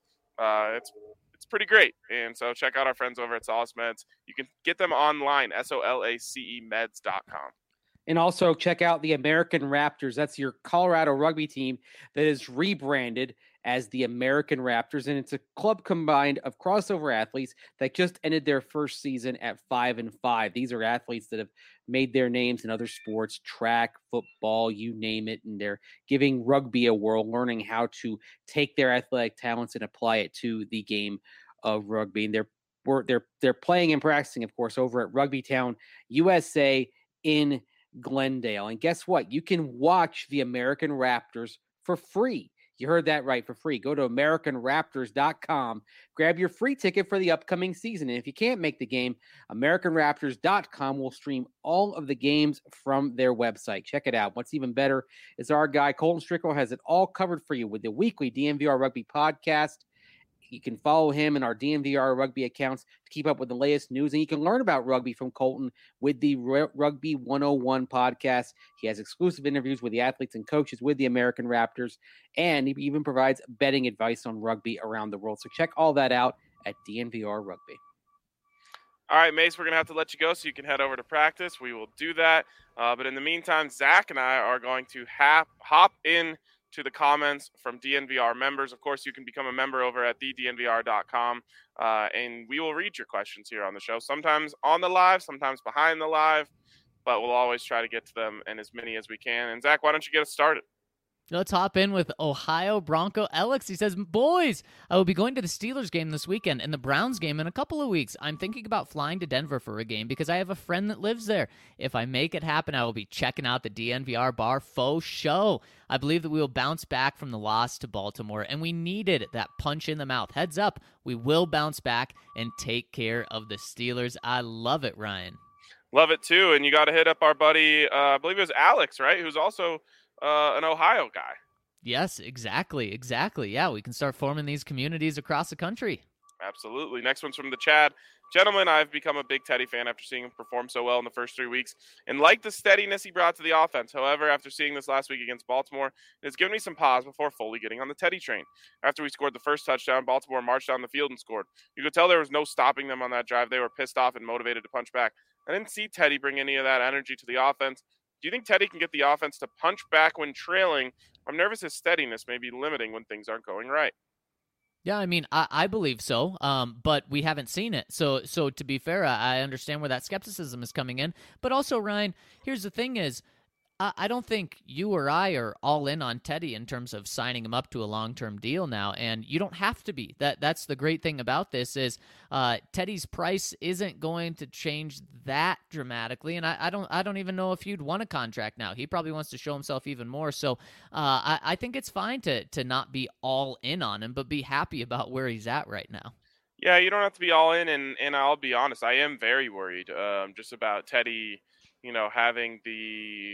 It's pretty great. And so check out our friends over at Solace Meds. You can get them online, SOLACE meds.com. And also check out the American Raptors. That's your Colorado rugby team that is rebranded as the American Raptors. And it's a club combined of crossover athletes that just ended their first season at 5-5. These are athletes that have made their names in other sports, track, football, you name it. And they're giving rugby a whirl, learning how to take their athletic talents and apply it to the game of rugby. And they're playing and practicing, of course, over at Rugby Town, USA in Glendale. And guess what? You can watch the American Raptors for free. You heard that right, for free. Go to AmericanRaptors.com. Grab your free ticket for the upcoming season. And if you can't make the game, AmericanRaptors.com will stream all of the games from their website. Check it out. What's even better is our guy, Colton Strickle, has it all covered for you with the weekly DNVR Rugby podcast. You can follow him in our DNVR Rugby accounts to keep up with the latest news. And you can learn about rugby from Colton with the Rugby 101 podcast. He has exclusive interviews with the athletes and coaches with the American Raptors. And he even provides betting advice on rugby around the world. So check all that out at DNVR Rugby. All right, Mace, we're going to have to let you go so you can head over to practice. We will do that. But in the meantime, Zach and I are going to hop in to the comments from DNVR members. Of course, you can become a member over at thednvr.com, and we will read your questions here on the show, sometimes on the live, sometimes behind the live, but we'll always try to get to them and as many as we can. And Zach, why don't you get us started? Let's hop in with Ohio Bronco Alex. He says, boys, I will be going to the Steelers game this weekend and the Browns game in a couple of weeks. I'm thinking about flying to Denver for a game because I have a friend that lives there. If I make it happen, I will be checking out the DNVR bar faux show. I believe that we will bounce back from the loss to Baltimore, and we needed that punch in the mouth. Heads up, we will bounce back and take care of the Steelers. I love it, Ryan. Love it, too. And you got to hit up our buddy, I believe it was Alex, right, who's also an Ohio guy. Yes, exactly. Yeah, we can start forming these communities across the country. Absolutely. Next one's from the Chad. Gentlemen, I've become a big Teddy fan after seeing him perform so well in the first 3 weeks and like the steadiness he brought to the offense. However, after seeing this last week against Baltimore, it has given me some pause before fully getting on the Teddy train. After we scored the first touchdown, Baltimore marched down the field and scored. You could tell there was no stopping them on that drive. They were pissed off and motivated to punch back. I didn't see Teddy bring any of that energy to the offense. Do you think Teddy can get the offense to punch back when trailing? I'm nervous his steadiness may be limiting when things aren't going right. Yeah, I mean, I believe so, but we haven't seen it. So to be fair, I understand where that skepticism is coming in. But also, Ryan, here's the thing is, I don't think you or I are all in on Teddy in terms of signing him up to a long-term deal now, and you don't have to be. That's the great thing about this is Teddy's price isn't going to change that dramatically, and I don't even know if you'd want a contract now. He probably wants to show himself even more, so I think it's fine to not be all in on him, but be happy about where he's at right now. Yeah, you don't have to be all in, and I'll be honest, I am very worried just about Teddy, having the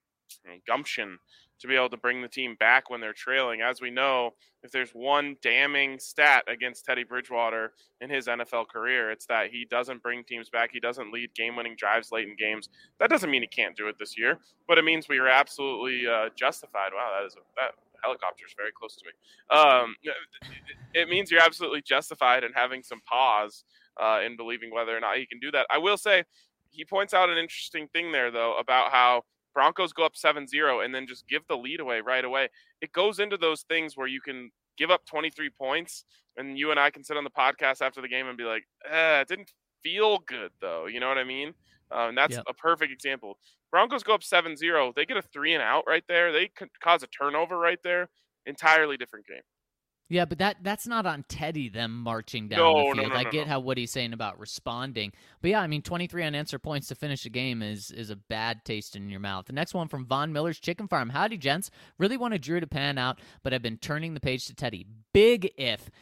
gumption to be able to bring the team back when they're trailing. As we know, if there's one damning stat against Teddy Bridgewater in his NFL career, it's that he doesn't bring teams back. He doesn't lead game-winning drives late in games. That doesn't mean he can't do it this year, but it means we are absolutely justified. Wow, that helicopter is very close to me. It means you're absolutely justified in having some pause in believing whether or not he can do that. I will say he points out an interesting thing there, though, about how Broncos go up 7-0 and then just give the lead away right away. It goes into those things where you can give up 23 points and you and I can sit on the podcast after the game and be like, it didn't feel good, though. You know what I mean? And that's a perfect example. Broncos go up 7-0. They get a 3-and-out right there. They could cause a turnover right there. Entirely different game. Yeah, but that's not on Teddy, them marching down the field. I get what he's saying about responding. But yeah, I mean, 23 unanswered points to finish the game is a bad taste in your mouth. The next one from Von Miller's Chicken Farm. Howdy, gents. Really wanted Drew to pan out, but I've been turning the page to Teddy. Big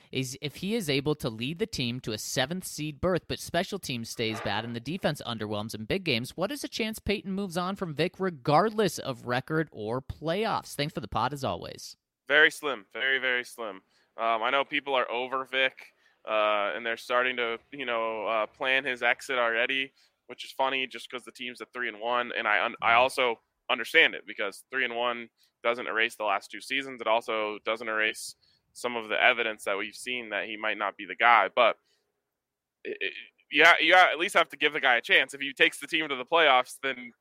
if he is able to lead the team to a 7th seed berth, but special teams stays bad and the defense underwhelms in big games, what is a chance Peyton moves on from Vic regardless of record or playoffs? Thanks for the pod as always. Very slim. Very, very slim. I know people are over Vic, and they're starting to, plan his exit already, which is funny just because the team's at 3-1. And I also understand it because 3-1 doesn't erase the last 2 seasons. It also doesn't erase some of the evidence that we've seen that he might not be the guy. But you at least have to give the guy a chance. If he takes the team to the playoffs, then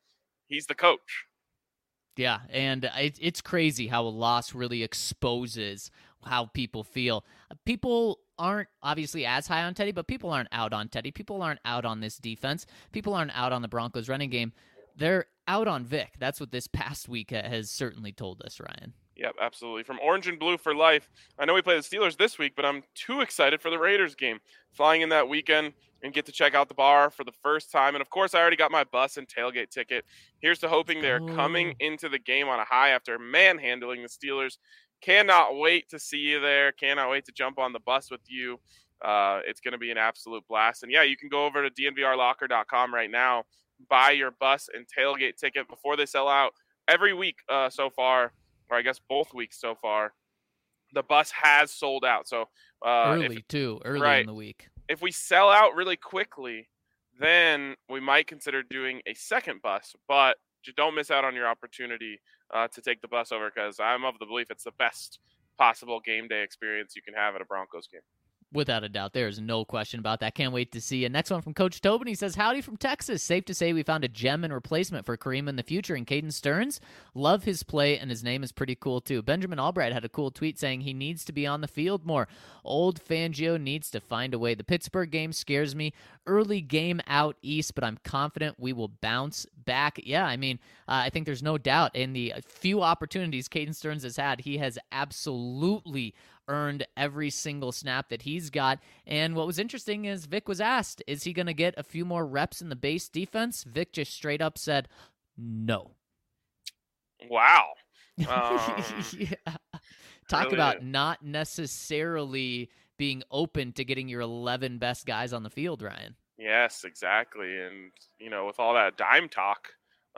He's the coach. Yeah, and it's crazy how a loss really exposes how people feel. People aren't obviously as high on Teddy, but people aren't out on Teddy. People aren't out on this defense. People aren't out on the Broncos running game. They're out on Vic. That's what this past week has certainly told us, Ryan. Yep, absolutely. From Orange and Blue for life. I know we play the Steelers this week, but I'm too excited for the Raiders game. Flying in that weekend and get to check out the bar for the first time. And, of course, I already got my bus and tailgate ticket. Here's to hoping they're coming into the game on a high after manhandling the Steelers. Cannot wait to see you there. Cannot wait to jump on the bus with you. It's going to be an absolute blast. And, yeah, you can go over to dnvrlocker.com right now, buy your bus and tailgate ticket before they sell out. Every week so far, or I guess both weeks so far, the bus has sold out. So early in the week. If we sell out really quickly, then we might consider doing a second bus. But just don't miss out on your opportunity to take the bus over, because I'm of the belief it's the best possible game day experience you can have at a Broncos game. Without a doubt. There's no question about that. Can't wait to see you. Next one from Coach Tobin. He says, howdy from Texas. Safe to say we found a gem and replacement for Kareem in the future in Caden Stearns. Love his play, and his name is pretty cool, too. Benjamin Albright had a cool tweet saying he needs to be on the field more. Old Fangio needs to find a way. The Pittsburgh game scares me. Early game out east, but I'm confident we will bounce back. Yeah, I mean, I think there's no doubt in the few opportunities Caden Stearns has had, he has absolutely earned every single snap that he's got. And what was interesting is Vic was asked, is he going to get a few more reps in the base defense? Vic just straight up said, no. Wow. Yeah. Talk really about not necessarily being open to getting your 11 best guys on the field, Ryan. Yes, exactly. And, with all that dime talk,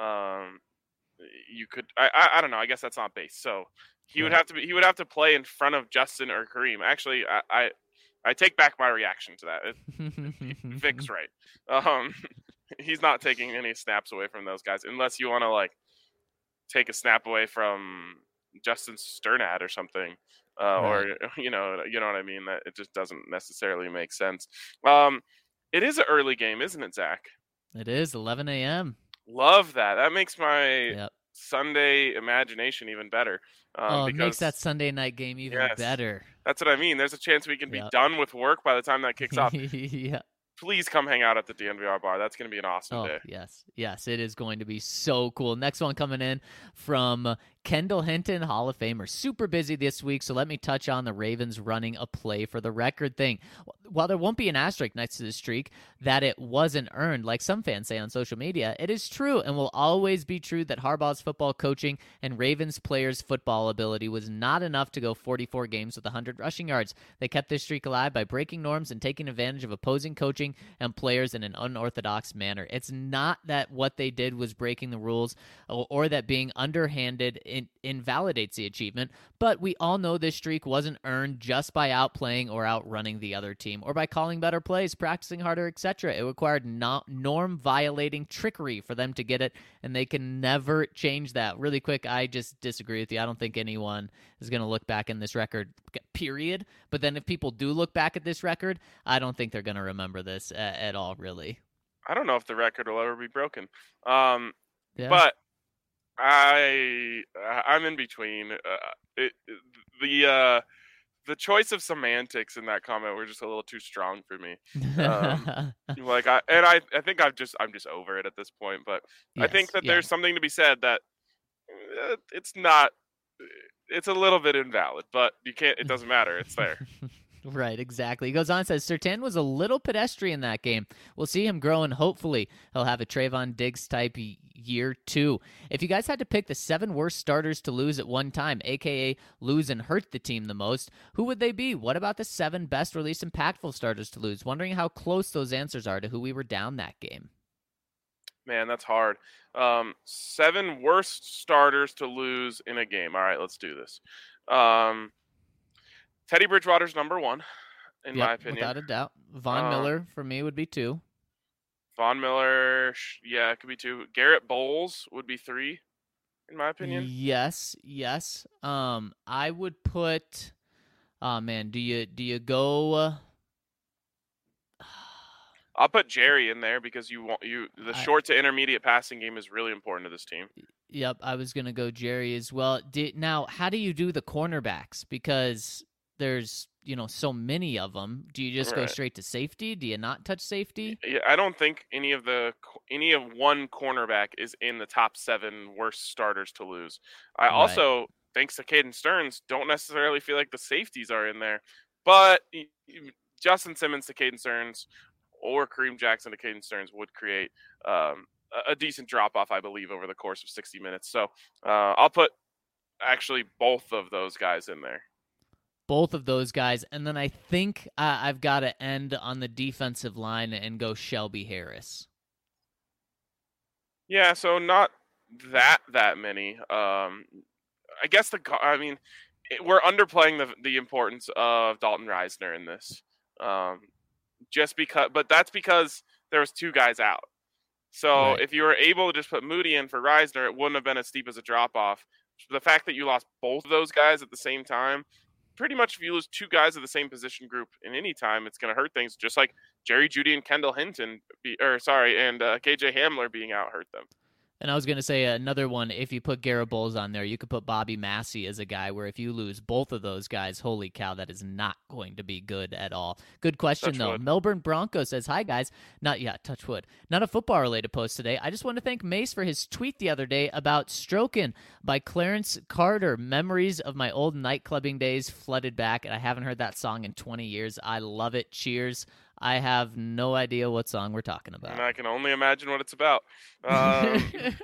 you could, I don't know, I guess that's not base. So he would have to play in front of Justin or Kareem. Actually, I take back my reaction to that. Vic's right. He's not taking any snaps away from those guys unless you want to take a snap away from Justin Sternad or something. Or you know what I mean? That it just doesn't necessarily make sense. It is an early game, isn't it, Zach? It is 11 a.m. Love that. That makes my Sunday imagination even better. It makes that Sunday night game even better. That's what I mean. There's a chance we can be done with work by the time that kicks off. Yeah. Please come hang out at the DNVR bar. That's going to be an awesome day. Yes, it is going to be so cool. Next one coming in from Kendall Hinton, Hall of Famer. Super busy this week, so let me touch on the Ravens running a play for the record thing. While there won't be an asterisk next to the streak that it wasn't earned, like some fans say on social media, it is true and will always be true that Harbaugh's football coaching and Ravens players' football ability was not enough to go 44 games with 100 rushing yards. They kept this streak alive by breaking norms and taking advantage of opposing coaching and players in an unorthodox manner. It's not that what they did was breaking the rules or that being underhanded invalidates the achievement, but we all know this streak wasn't earned just by outplaying or outrunning the other team or by calling better plays, practicing harder, etc. It required norm-violating trickery for them to get it, and they can never change that. Really quick, I just disagree with you. I don't think anyone is going to look back in this record, period. But then if people do look back at this record, I don't think they're going to remember this at all, really. I don't know if the record will ever be broken. But I'm in between. The choice of semantics in that comment were just a little too strong for me. I think I'm just over it at this point. But I think that there's something to be said that it's not. It's a little bit invalid, but you can't. It doesn't matter. It's there. Right, exactly. He goes on and says, Surtain was a little pedestrian that game. We'll see him grow, and hopefully he'll have a Trayvon Diggs type year 2. If you guys had to pick the 7 worst starters to lose at one time, a.k.a. lose and hurt the team the most, who would they be? What about the 7 best or least impactful starters to lose? Wondering how close those answers are to who we were down that game. Man, that's hard. 7 worst starters to lose in a game. All right, let's do this. Teddy Bridgewater's number 1, in my opinion. Without a doubt. Von Miller, for me, would be 2. Von Miller, it could be 2. Garrett Bowles would be 3, in my opinion. Yes. I would put. Oh man, do you go? I'll put Jerry in there because the short to intermediate passing game is really important to this team. Yep, I was gonna go Jerry as well. Now, how do you do the cornerbacks? Because there's so many of them. Do you just go straight to safety? Do you not touch safety? Yeah, I don't think any of one cornerback is in the top 7 worst starters to lose. I also, thanks to Caden Stearns, don't necessarily feel like the safeties are in there, but Justin Simmons to Caden Stearns or Kareem Jackson to Caden Stearns would create a decent drop-off, I believe, over the course of 60 minutes. So I'll put actually both of those guys in there. Both of those guys. And then I think I've got to end on the defensive line and go Shelby Harris. Yeah, so not that many. I guess we're underplaying the importance of Dalton Reisner in this. But that's because there was 2 guys out. So if you were able to just put Moody in for Reisner, it wouldn't have been as steep as a drop-off. The fact that you lost both of those guys at the same time, pretty much if you lose 2 guys of the same position group in any time, it's going to hurt things, just like Jerry Jeudy and Kendall Hinton, and KJ Hamler being out hurt them. And I was going to say another one, if you put Garrett Bowles on there, you could put Bobby Massey as a guy where if you lose both of those guys, holy cow, that is not going to be good at all. Good question, though. Melbourne Bronco says, hi, guys. Touch wood. Not a football-related post today. I just want to thank Mace for his tweet the other day about Strokin' by Clarence Carter. Memories of my old nightclubbing days flooded back, and I haven't heard that song in 20 years. I love it. Cheers. I have no idea what song we're talking about. And I can only imagine what it's about. Shout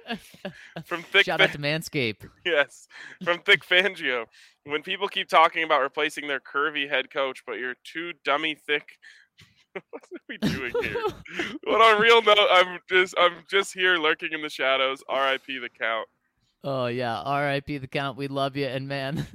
out to Manscaped. Yes, from Thick Fangio. When people keep talking about replacing their curvy head coach, but you're too dummy thick. What are we doing here? But on a real note, I'm just here lurking in the shadows. R.I.P. the Count. Oh yeah, R.I.P. the Count. We love you, and man,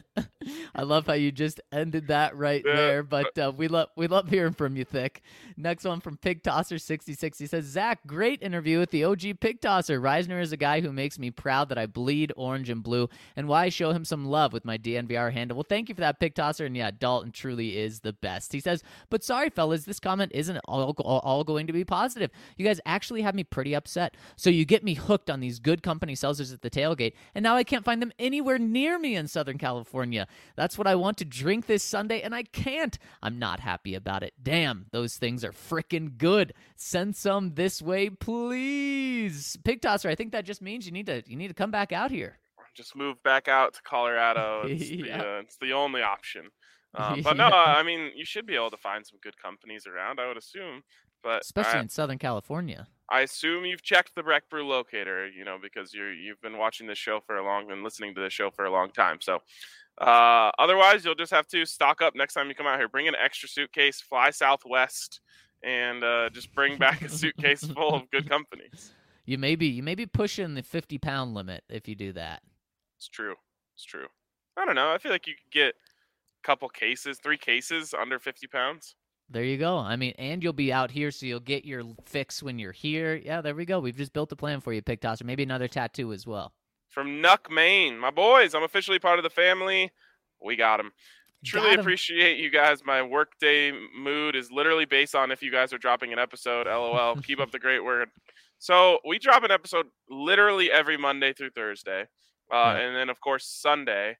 I love how you just ended that there. But we love hearing from you, Thick. Next one from Pig Tosser 66. He says, Zach, great interview with the OG Pig Tosser. Reisner is a guy who makes me proud that I bleed orange and blue, and why I show him some love with my DNVR handle. Well, thank you for that, Pig Tosser. And yeah, Dalton truly is the best. He says, but sorry, fellas, this comment isn't all going to be positive. You guys actually have me pretty upset. So you get me hooked on these good company seltzers at the tailgate, and now I can't find them anywhere near me in Southern California. That's what I want to drink this Sunday, and I can't. I'm not happy about it. Damn, those things are freaking good. Send some this way, please. Pig Tosser, I think that just means you need to come back out here. Just move back out to Colorado. It's the only option. But no, I mean, you should be able to find some good companies around, I would assume. But especially in Southern California. I assume you've checked the Breck Brew locator, because you've been watching this show and listening to this show for a long time. So otherwise, you'll just have to stock up next time you come out here. Bring an extra suitcase, fly Southwest, and just bring back a suitcase full of good companies. You may be pushing the 50-pound limit if you do that. It's true. I don't know. I feel like you could get a couple cases, 3 cases under 50 pounds. There you go. I mean, and you'll be out here, so you'll get your fix when you're here. Yeah, there we go. We've just built a plan for you, Pig Tosser. Maybe another tattoo as well. From Nuck, Maine. My boys, I'm officially part of the family. We got him. Truly appreciate you guys. My workday mood is literally based on if you guys are dropping an episode. LOL. Keep up the great work. So we drop an episode literally every Monday through Thursday. And then, of course, Sunday.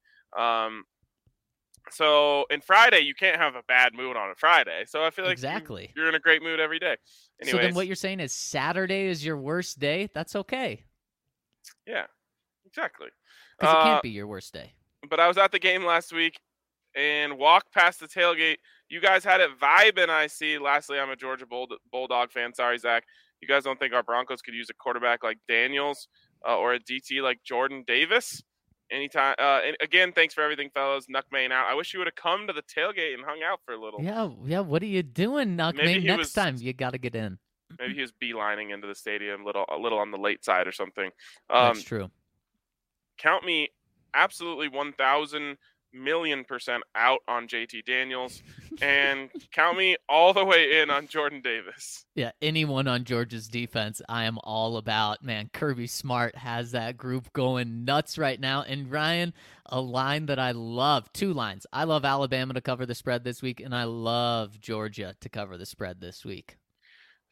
So in Friday, you can't have a bad mood on a Friday. So I feel like you're in a great mood every day. Anyways, so then what you're saying is Saturday is your worst day? That's okay. Yeah, exactly. Because it can't be your worst day. But I was at the game last week and walked past the tailgate. You guys had it vibing, I see. Lastly, I'm a Georgia Bulldog fan. Sorry, Zach. You guys don't think our Broncos could use a quarterback like Daniels or a DT like Jordan Davis? Anytime. And again, thanks for everything, fellas. Nuck Maine out. I wish you would have come to the tailgate and hung out for a little. Yeah. What are you doing, Nuck Maine? Next time you got to get in. Maybe he was beelining into the stadium, a little on the late side or something. That's true. Count me absolutely 1,000,000,000% out on JT Daniels, and count me all the way in on Jordan Davis. Yeah, anyone on Georgia's defense, I am all about. Man, Kirby Smart has that group going nuts right now. And Ryan, a line that I love, 2 lines. I love Alabama to cover the spread this week, and I love Georgia to cover the spread this week.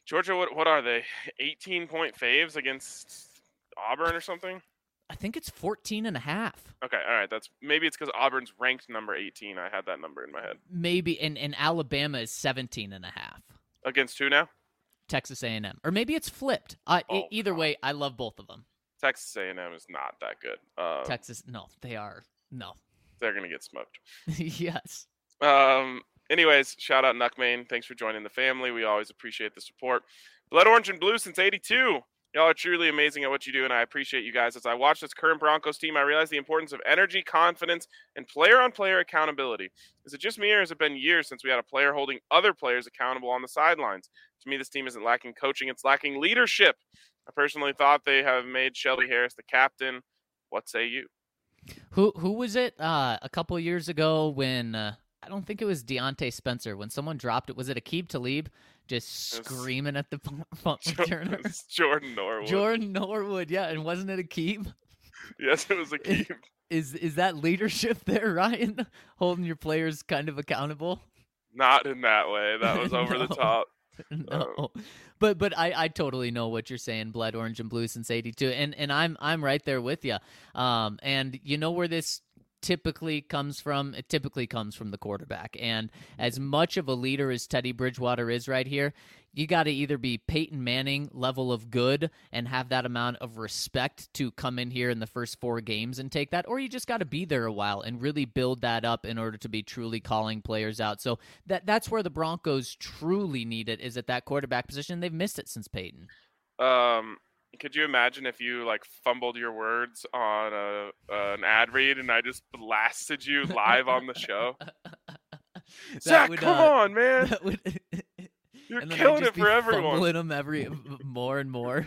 Georgia, what are they? 18-point faves against Auburn or something? I think it's 14.5. Okay, all right. Maybe it's because Auburn's ranked number 18. I had that number in my head. Maybe, and Alabama is 17.5. Against who now? Texas A&M, or maybe it's flipped. Either way, I love both of them. Texas A&M is not that good. Texas, no, they are. No, they're gonna get smoked. Yes. Anyways, shout out Nuckmane. Thanks for joining the family. We always appreciate the support. Blood Orange and Blue since '82. Y'all are truly amazing at what you do, and I appreciate you guys. As I watch this current Broncos team, I realize the importance of energy, confidence, and player-on-player accountability. Is it just me, or has it been years since we had a player holding other players accountable on the sidelines? To me, this team isn't lacking coaching, it's lacking leadership. I personally thought they have made Shelby Harris the captain. What say you? Who was it a couple of years ago when I don't think it was Deontay Spencer, when someone dropped it? Was it Aqib Talib just screaming at the punt returner? Jordan Norwood. Jordan Norwood, yeah, and wasn't it Aqib? Yes, it was Aqib. Is that leadership there, Ryan? Holding your players kind of accountable? Not in that way. That was over the top. No, but I totally know what you're saying. Blood Orange and Blue since '82, and I'm right there with you. And you know where this typically comes from? It typically comes from the quarterback. And as much of a leader as Teddy Bridgewater is right here, you got to either be Peyton Manning level of good and have that amount of respect to come in here in the first 4 games and take that, or you just got to be there a while and really build that up in order to be truly calling players out. So that's where the Broncos truly need it, is at that quarterback position. They've missed it since Peyton. Could you imagine if you fumbled your words on an ad read and I just blasted you live on the show? Zach, come on, man! You're killing it for everyone. Fumbling them more and more.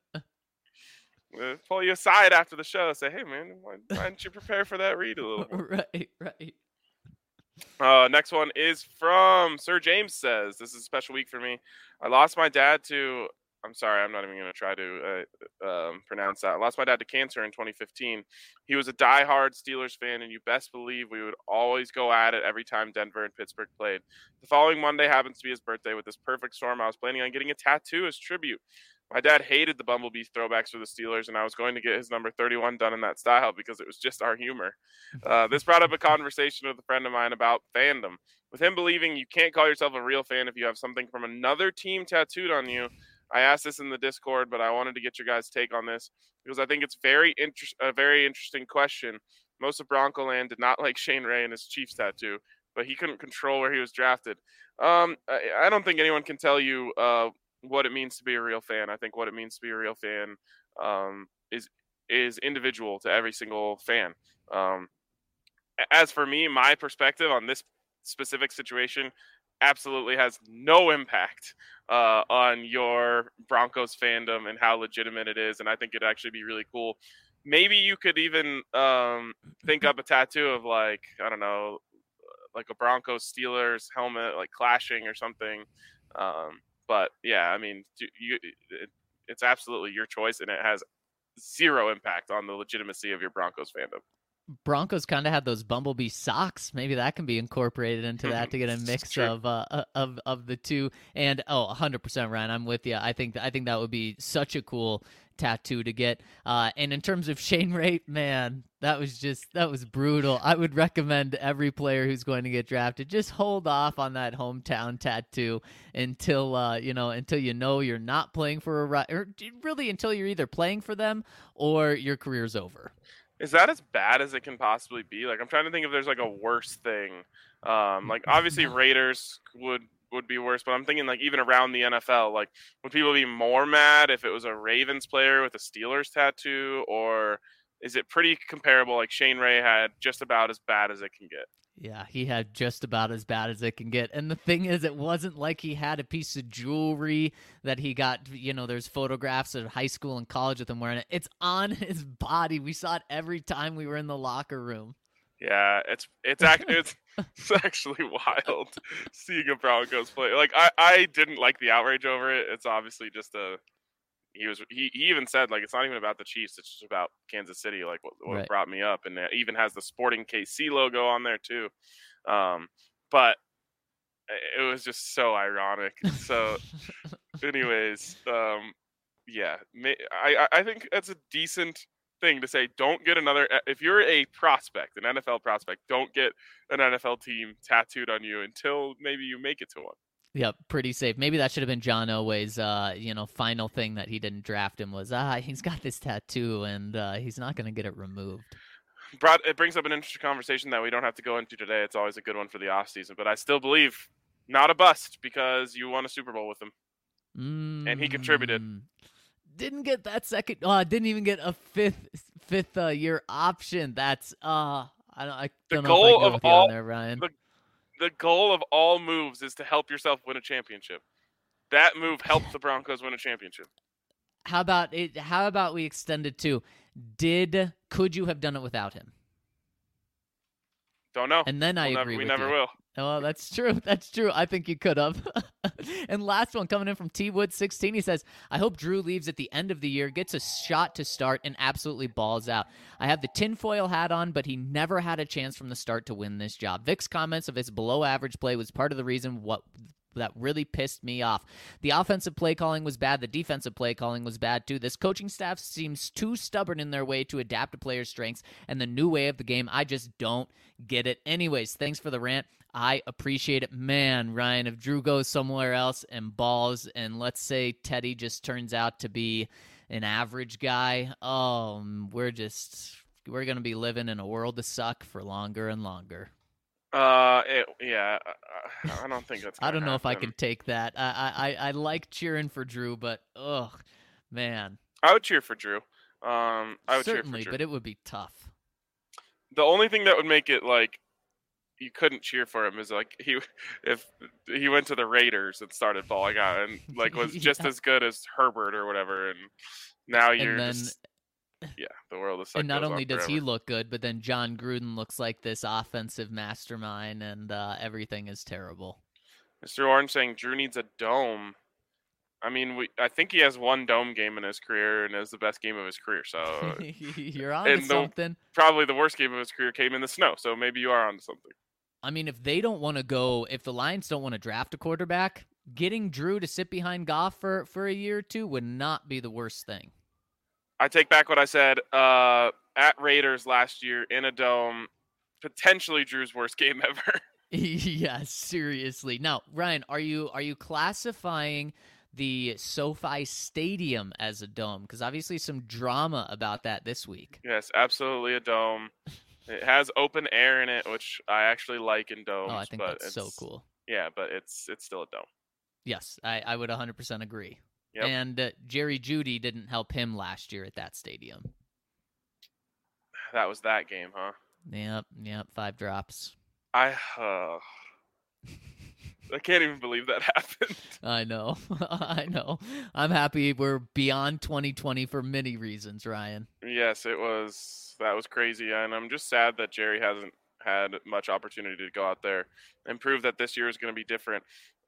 We'll pull you aside after the show and say, hey, man, why don't you prepare for that read a little more? Right. Next one is from Sir James says, this is a special week for me. I lost my dad to... I'm sorry, I'm not even going to try to pronounce that. I lost my dad to cancer in 2015. He was a diehard Steelers fan, and you best believe we would always go at it every time Denver and Pittsburgh played. The following Monday happens to be his birthday. With this perfect storm, I was planning on getting a tattoo as tribute. My dad hated the Bumblebee throwbacks for the Steelers, and I was going to get his number 31 done in that style because it was just our humor. This brought up a conversation with a friend of mine about fandom. With him believing you can't call yourself a real fan if you have something from another team tattooed on you, I asked this in the Discord, but I wanted to get your guys' take on this because I think it's a very interesting question. Most of Bronco Land did not like Shane Ray and his Chiefs tattoo, but he couldn't control where he was drafted. I don't think anyone can tell you what it means to be a real fan. I think what it means to be a real fan is individual to every single fan. As for me, my perspective on this specific situation absolutely has no impact on your Broncos fandom and how legitimate it is. And I think it'd actually be really cool. Maybe you could even think up a tattoo of I don't know, like a Broncos Steelers helmet, clashing or something. But yeah, I mean, it's absolutely your choice, and it has zero impact on the legitimacy of your Broncos fandom. Broncos kind of had those Bumblebee socks. Maybe that can be incorporated into that to get a mix of the two. And 100%, Ryan, I'm with you. I think that would be such a cool tattoo to get. And in terms of Shane Ray, man, that was brutal. I would recommend every player who's going to get drafted just hold off on that hometown tattoo until you're not playing for or really until you're either playing for them or your career's over. Is that as bad as it can possibly be? I'm trying to think if there's a worse thing. Obviously Raiders would be worse, but I'm thinking even around the NFL, would people be more mad if it was a Ravens player with a Steelers tattoo, or is it pretty comparable? Shane Ray had just about as bad as it can get. Yeah, he had just about as bad as it can get. And the thing is, it wasn't like he had a piece of jewelry that he got, there's photographs of high school and college with him wearing it. It's on his body. We saw it every time we were in the locker room. Yeah, it's actually wild seeing a Broncos play. I didn't like the outrage over it. It's obviously just he even said it's not even about the Chiefs, it's just about Kansas City, what right. Brought me up, and it even has the Sporting KC logo on there too. But it was just so ironic. So Anyways, yeah, I think that's a decent thing to say. Don't get another. If you're a prospect, an NFL prospect, don't get an NFL team tattooed on you until maybe you make it to one. Yep, pretty safe. Maybe that should have been John Elway's, final thing that he didn't draft him was, he's got this tattoo and he's not going to get it removed. It brings up an interesting conversation that we don't have to go into today. It's always a good one for the offseason, but I still believe not a bust because you won a Super Bowl with him. And he contributed. Didn't get that second. Didn't even get a fifth year option. That's I don't know if I go with you on there, Ryan. The goal of all moves is to help yourself win a championship. That move helped the Broncos win a championship. How about it? How about we extend it to could you have done it without him? Don't know. And then I agree with you. We never will. Oh, that's true. That's true. I think you could have. And last one coming in from T-Wood16. He says, I hope Drew leaves at the end of the year, gets a shot to start, and absolutely balls out. I have the tinfoil hat on, but he never had a chance from the start to win this job. Vic's comments of his below-average play was part of the reason that really pissed me off. The offensive play calling was bad. The defensive play calling was bad, too. This coaching staff seems too stubborn in their way to adapt to players' strengths and the new way of the game. I just don't get it. Anyways, thanks for the rant. I appreciate it. Man, Ryan, if Drew goes somewhere else and balls, and let's say Teddy just turns out to be an average guy, we're going to be living in a world of suck for longer and longer. I don't think that's I don't know happen. if I can take that. I like cheering for Drew, but man. I would cheer for Drew. I would certainly, cheer for Drew. But it would be tough. The only thing that would make it like you couldn't cheer for him is like if he went to the Raiders and started balling out and like was just as good as Herbert or whatever, and now you're the world is. And not only does he look good, but then John Gruden looks like this offensive mastermind, and everything is terrible. Mr. Orange saying Drew needs a dome. I mean, I think he has one dome game in his career, and it was the best game of his career. So you're on to something. Probably the worst game of his career came in the snow. So maybe you are on to something. I mean, if they don't want to go, if the Lions don't want to draft a quarterback, getting Drew to sit behind Goff for a year or two would not be the worst thing. I take back what I said. At Raiders last year in a dome, potentially Drew's worst game ever. Yes, seriously. Now, Ryan, are you classifying the SoFi Stadium as a dome? Because obviously some drama about that this week. Yes, absolutely a dome. It has open air in it, which I actually like in domes. Oh, I think that's so cool. Yeah, but it's still a dome. Yes, I would 100% agree. Yep. And Jerry Jeudy didn't help him last year at that stadium. That was that game, huh? Yep, 5 drops. I can't even believe that happened. I know. I'm happy we're beyond 2020 for many reasons, Ryan. Yes, that was crazy, and I'm just sad that Jerry hasn't had much opportunity to go out there and prove that this year is going to be different.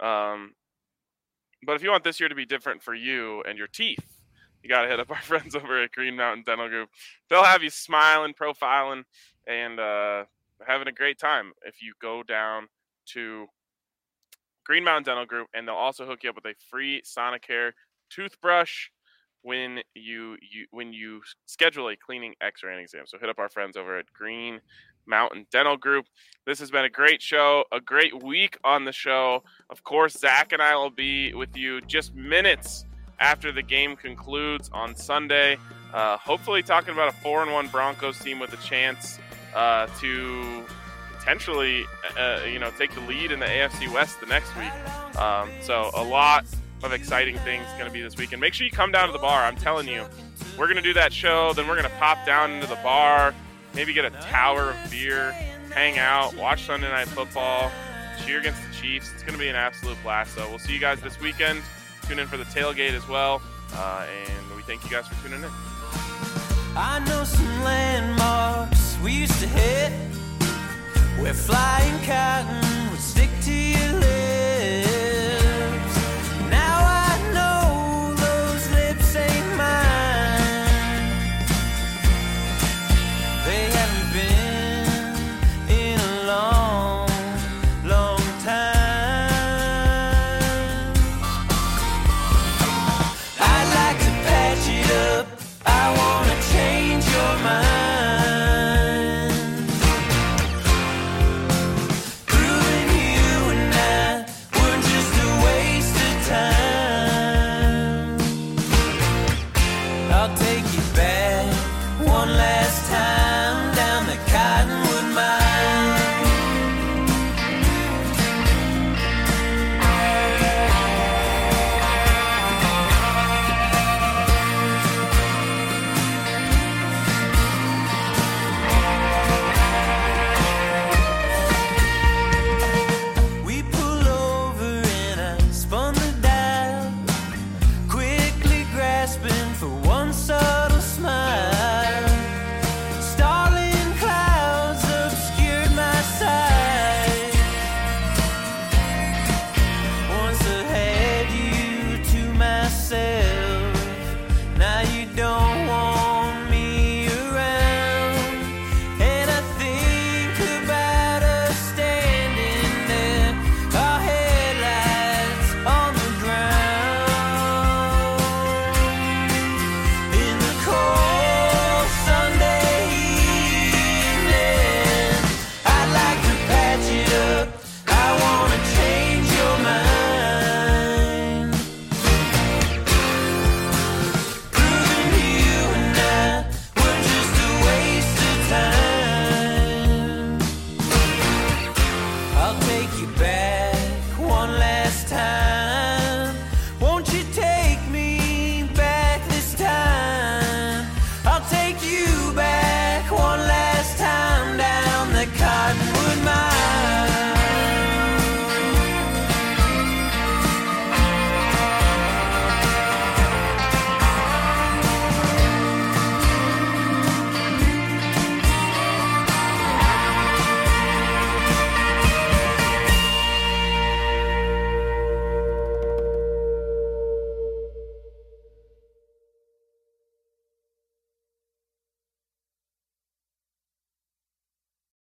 But if you want this year to be different for you and your teeth, you got to hit up our friends over at Green Mountain Dental Group. They'll have you smiling, profiling, and having a great time if you go down to Green Mountain Dental Group, and they'll also hook you up with a free Sonicare toothbrush when you schedule a cleaning, X-ray, and exam. So hit up our friends over at Green Mountain Dental Group. This has been a great show, a great week on the show. Of course, Zach and I will be with you just minutes after the game concludes on Sunday. Hopefully talking about a 4-1 Broncos team with a chance to potentially, take the lead in the AFC West the next week. So a lot of exciting things going to be this weekend. Make sure you come down to the bar. I'm telling you, we're going to do that show. Then we're going to pop down into the bar, maybe get a tower of beer, hang out, watch Sunday Night Football, cheer against the Chiefs. It's going to be an absolute blast. So we'll see you guys this weekend. Tune in for the tailgate as well. And we thank you guys for tuning in. I know some landmarks we used to hit where flying cotton would stick to your lips. Now I know those lips ain't mine. They haven't been in a long, long time. I'll take you back one last time down the Cottonwood Mine. We pull over and I spun the dial, quickly grasping for one side.